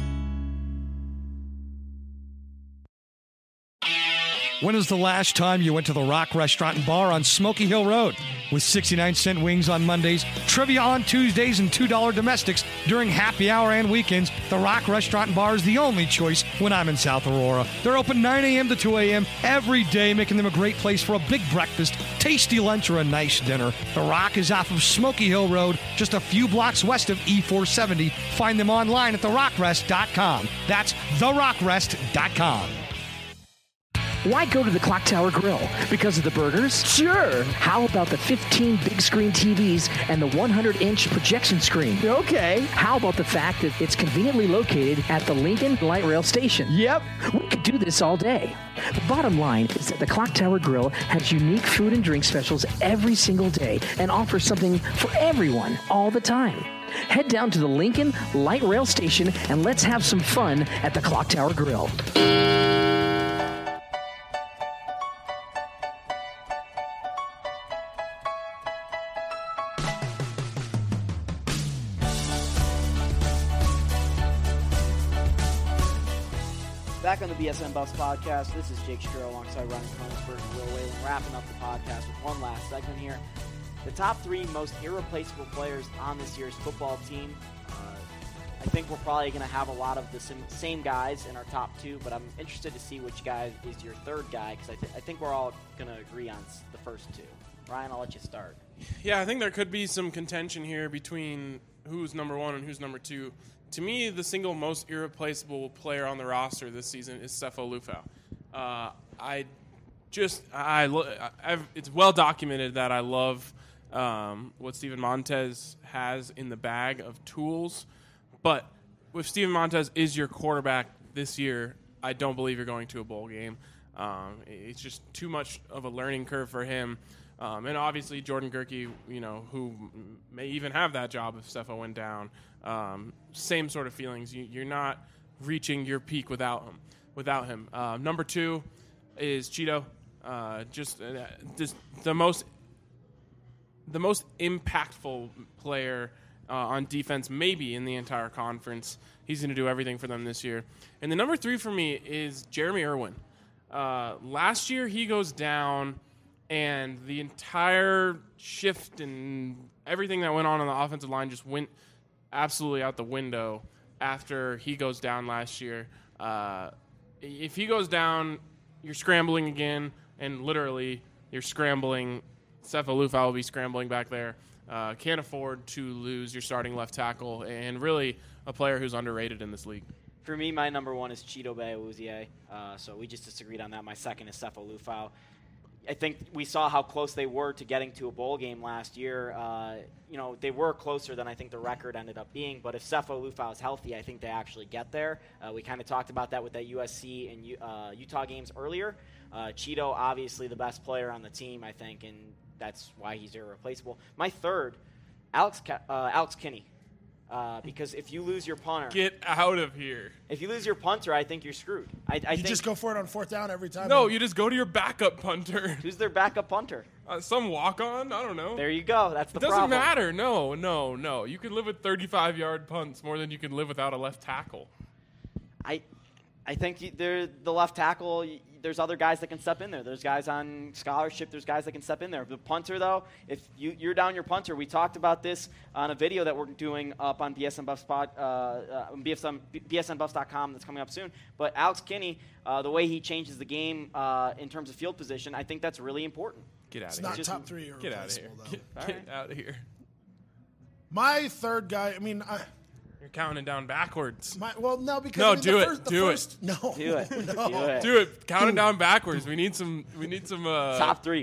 When was the last time you went to the Rock Restaurant and Bar on Smoky Hill Road? With sixty-nine cent wings on Mondays, trivia on Tuesdays, and two dollar domestics during happy hour and weekends, the Rock Restaurant and Bar is the only choice when I'm in South Aurora. They're open nine a.m. to two a.m. every day, making them a great place for a big breakfast, tasty lunch, or a nice dinner. The Rock is off of Smoky Hill Road, just a few blocks west of E four seventy. Find them online at the rock rest dot com. That's the rock rest dot com. Why go to the Clock Tower Grill? Because of the burgers? Sure. How about the fifteen big screen T Vs and the one hundred inch projection screen? Okay. How about the fact that it's conveniently located at the Lincoln Light Rail Station? Yep. We could do this all day. The bottom line is that the Clock Tower Grill has unique food and drink specials every single day and offers something for everyone all the time. Head down to the Lincoln Light Rail Station and let's have some fun at the Clock Tower Grill. Back on the B S N Buffs podcast, this is Jake Shapiro alongside Ryan Koenigsberg and Will Whalen, wrapping up the podcast with one last segment here. The top three most irreplaceable players on this year's football team. Uh, I think we're probably going to have a lot of the same guys in our top two, but I'm interested to see which guy is your third guy, because I, th- I think we're all going to agree on the first two. Ryan, I'll let you start. Yeah, I think there could be some contention here between who's number one and who's number two. To me, the single most irreplaceable player on the roster this season is Sefo Liufau. Uh, I just, I, lo- I've, it's well documented that I love um, what Steven Montez has in the bag of tools. But if Steven Montez is your quarterback this year, I don't believe you're going to a bowl game. Um, it's just too much of a learning curve for him. Um, and obviously Jordan Gerke, you know, who may even have that job if Sefo went down. Um, same sort of feelings. You, you're not reaching your peak without him. Without him, uh, number two is Cheeto. Uh, just, uh, just the most, the most impactful player uh, on defense, maybe in the entire conference. He's going to do everything for them this year. And the number three for me is Jeremy Irwin. Uh, last year he goes down, and the entire shift and everything that went on on the offensive line just went absolutely out the window after he goes down last year. Uh, if he goes down, you're scrambling again, and literally you're scrambling. Sefo Liufau will be scrambling back there. Uh, can't afford to lose your starting left tackle, and really a player who's underrated in this league. For me, my number one is Chidobe Awuzie. Uh, so we just disagreed on that. My second is Sefo Liufau. I think we saw how close they were to getting to a bowl game last year. Uh, you know, they were closer than I think the record ended up being. But if Sefo Liufau is healthy, I think they actually get there. Uh, we kind of talked about that with that U S C and U- uh, Utah games earlier. Uh, Cheeto, obviously the best player on the team, I think, and that's why he's irreplaceable. My third, Alex Ke- uh, Alex Kinney. Uh, because if you lose your punter, get out of here. If you lose your punter, I think you're screwed. I, I you think just go for it on fourth down every time. No, man. You just go to your backup punter. Who's their backup punter? Uh, some walk-on. I don't know. There you go. That's the it doesn't problem. matter. No, no, no. You can live with thirty-five yard punts more than you can live without a left tackle. I, I think they're the left tackle. There's other guys that can step in there. There's guys on scholarship. There's guys that can step in there. The punter, though, if you, you're down your punter, we talked about this on a video that we're doing up on B S N Buffs spot, uh, uh, B S N, B S N Buffs dot com that's coming up soon. But Alex Kinney, uh, the way he changes the game uh, in terms of field position, I think that's really important. Get out it's of here. It's not top three. Or Get out of here. Though. Get, get right. out of here. My third guy, I mean, I, you're counting down backwards. My, well, no, because no, I mean, do the it, first, the do first, it, no, do it, no. do it, do it. Counting down backwards. We need some. We need some uh, top three.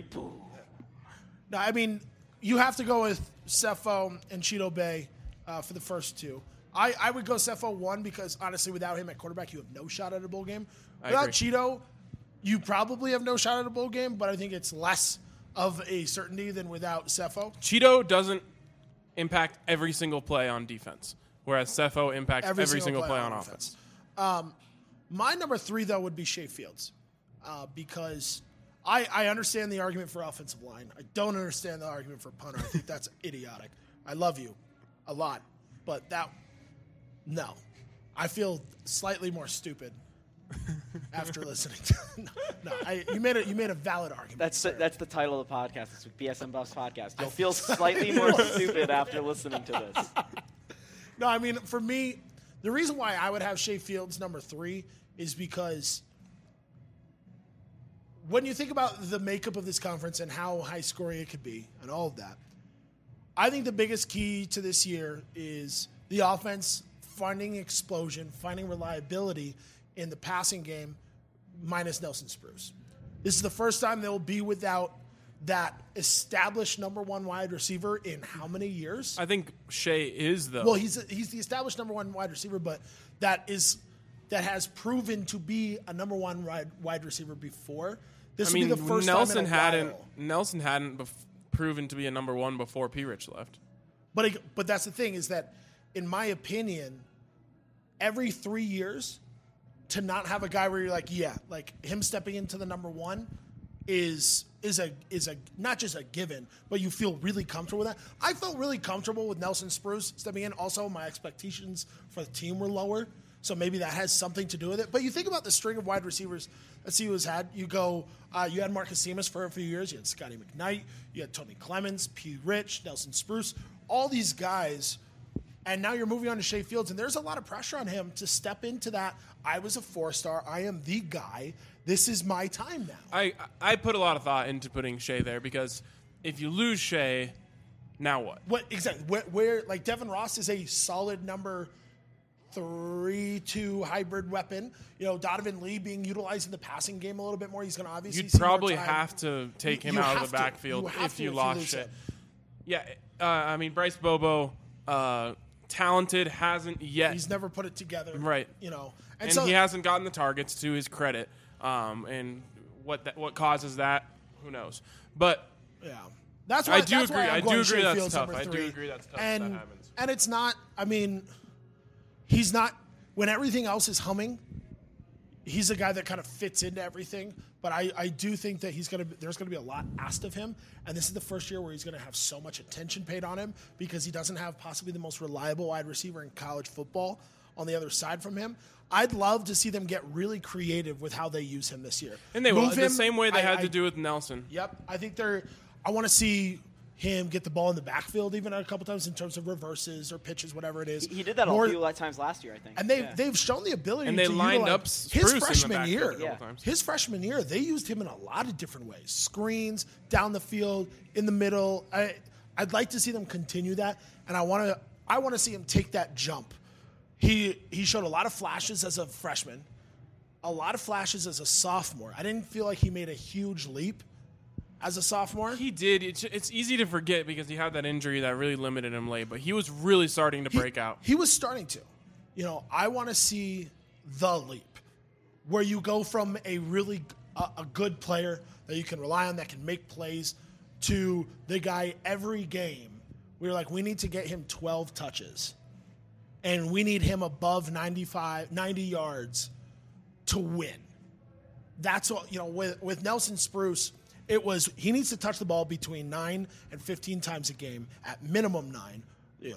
No, I mean, you have to go with Sefo and Cheeto Bay uh, for the first two. I, I would go Sefo one because honestly, without him at quarterback, you have no shot at a bowl game. I Without agree. Cheeto, you probably have no shot at a bowl game, but I think it's less of a certainty than without Sefo. Cheeto doesn't impact every single play on defense, whereas Sefo impacts every, every single, single play, play on, on offense. offense. Um, my number three, though, would be Shea Fields uh, because I, I understand the argument for offensive line. I don't understand the argument for punter. I think that's idiotic. I love you a lot, but that, no. I feel slightly more stupid after listening to no, no I, you made a you made a valid argument. That's the, that's the title of the podcast this week, B S N Buffs podcast. You'll feel slightly more stupid after listening to this. No, I mean for me, the reason why I would have Shea Fields number three is because when you think about the makeup of this conference and how high scoring it could be and all of that, I think the biggest key to this year is the offense finding explosion, finding reliability in the passing game, minus Nelson Spruce. This is the first time they'll be without that established number one wide receiver in how many years? I think Shea is though. Well, he's a, he's the established number one wide receiver, but that is that has proven to be a number one wide, wide receiver before. This I will mean, be the first Nelson time in a hadn't while. Nelson hadn't bef- proven to be a number one before P. Rich left. But it, but that's the thing is that, in my opinion, every three years. To not have a guy where you're like, yeah, like him stepping into the number one is is a is a not just a given, but you feel really comfortable with that. I felt really comfortable with Nelson Spruce stepping in. Also, my expectations for the team were lower, so maybe that has something to do with it. But you think about the string of wide receivers that C U has had. You go, uh, you had Marcus Simas for a few years. You had Scotty McKnight. You had Tony Clemens, P. Rich, Nelson Spruce. All these guys. And now you're moving on to Shea Fields, and there's a lot of pressure on him to step into that. I was a four-star. I am the guy. This is my time now. I I put a lot of thought into putting Shea there because if you lose Shea, now what? What exactly? Where, where like Devin Ross is a solid number three, two hybrid weapon. You know, Donovan Lee being utilized in the passing game a little bit more. He's going to obviously. You'd see probably more time. have to take him You out have of the to. backfield You have if to you if you lost lose Shea. him. Yeah, uh, I mean Bryce Bobo. Uh, talented, hasn't yet. He's never put it together. Right. You know. And, And, so he hasn't gotten the targets to his credit. Um, and what that, what causes that, who knows. But yeah. That's why I do that's agree. why I'm I do going agree Shea that's Fields tough. number I do three. agree that's tough And, if that happens. and it's not, I mean, he's not, when everything else is humming, he's a guy that kind of fits into everything. But I, I do think that he's going to, there's going to be a lot asked of him. And this is the first year where he's going to have so much attention paid on him because he doesn't have possibly the most reliable wide receiver in college football on the other side from him. I'd love to see them get really creative with how they use him this year. And they will, Move the him, same way they I- had I- to do with Nelson. Yep. I think they're, I want to see him get the ball in the backfield even a couple times in terms of reverses or pitches, whatever it is. He, he did that More, a few times last year, I think. and they Yeah. they've shown the ability And they to lined utilize- up Spruce his in the freshman backfield year. a couple times. His freshman year, they used him in a lot of different ways: screens, down the field, in the middle. I I'd like to see them continue that, and I want to I want to see him take that jump. He he showed a lot of flashes as a freshman, a lot of flashes as a sophomore. I didn't feel like he made a huge leap as a sophomore. He did. It's, it's easy to forget because he had that injury that really limited him late, but he was really starting to break out. He was starting to. You know, I want to see the leap where you go from a really a, a good player that you can rely on that can make plays to the guy every game. We were like, we need to get him twelve touches and we need him above ninety-five, ninety yards to win. That's what, you know, with, with Nelson Spruce, it was, he needs to touch the ball between nine and fifteen times a game, at minimum nine. You know,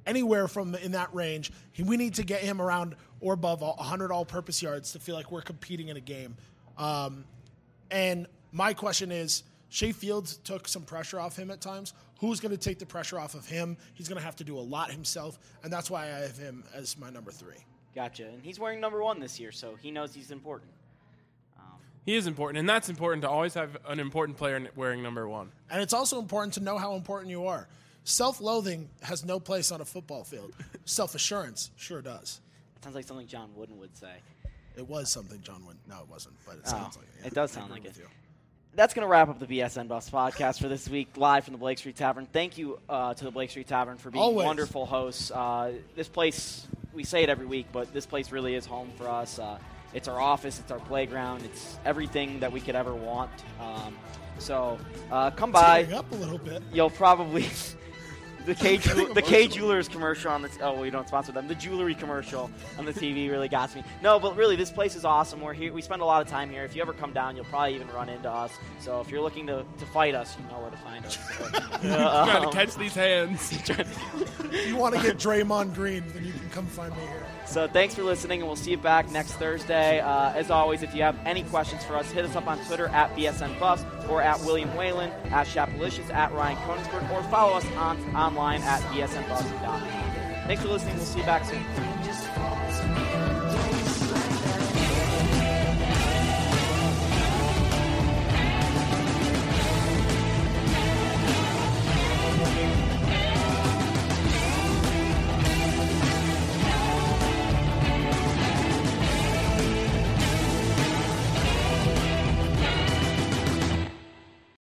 anywhere from the, in that range. He, we need to get him around or above one hundred all-purpose yards to feel like we're competing in a game. Um, and my question is, Shea Fields took some pressure off him at times. Who's going to take the pressure off of him? He's going to have to do a lot himself, and that's why I have him as my number three. Gotcha. And he's wearing number one this year, so he knows he's important. Um, he is important, and that's important to always have an important player wearing number one. And it's also important to know how important you are. Self-loathing has no place on a football field. Self-assurance sure does. It sounds like something John Wooden would say. It was something John Wooden. No, it wasn't, but it sounds oh, like it. Yeah, it does sound like it. You. That's going to wrap up the B S N Buffs podcast for this week, live from the Blake Street Tavern. Thank you uh, to the Blake Street Tavern for being Always. wonderful hosts. Uh, this place, we say it every week, but this place really is home for us. Uh, it's our office, it's our playground, it's everything that we could ever want. Um, so uh, come by. Tearing up a little bit. You'll probably... The K the K Jewelers commercial on the t- oh we don't sponsor them. The jewelry commercial on the T V really got me. No, but really this place is awesome. We're here. We spend a lot of time here. If you ever come down, you'll probably even run into us. So if you're looking to, to fight us, you know where to find us. So, uh, Trying to catch these hands. If you want to get Draymond Green, then you can come find me here. So thanks for listening, and we'll see you back next Thursday. Uh, as always, if you have any questions for us, hit us up on Twitter at B S N Buffs or at William Whalen, at Shapalicious, at Ryan Koenigsberg, or follow us on online at B S N Buffs dot com. Thanks for listening. We'll see you back soon.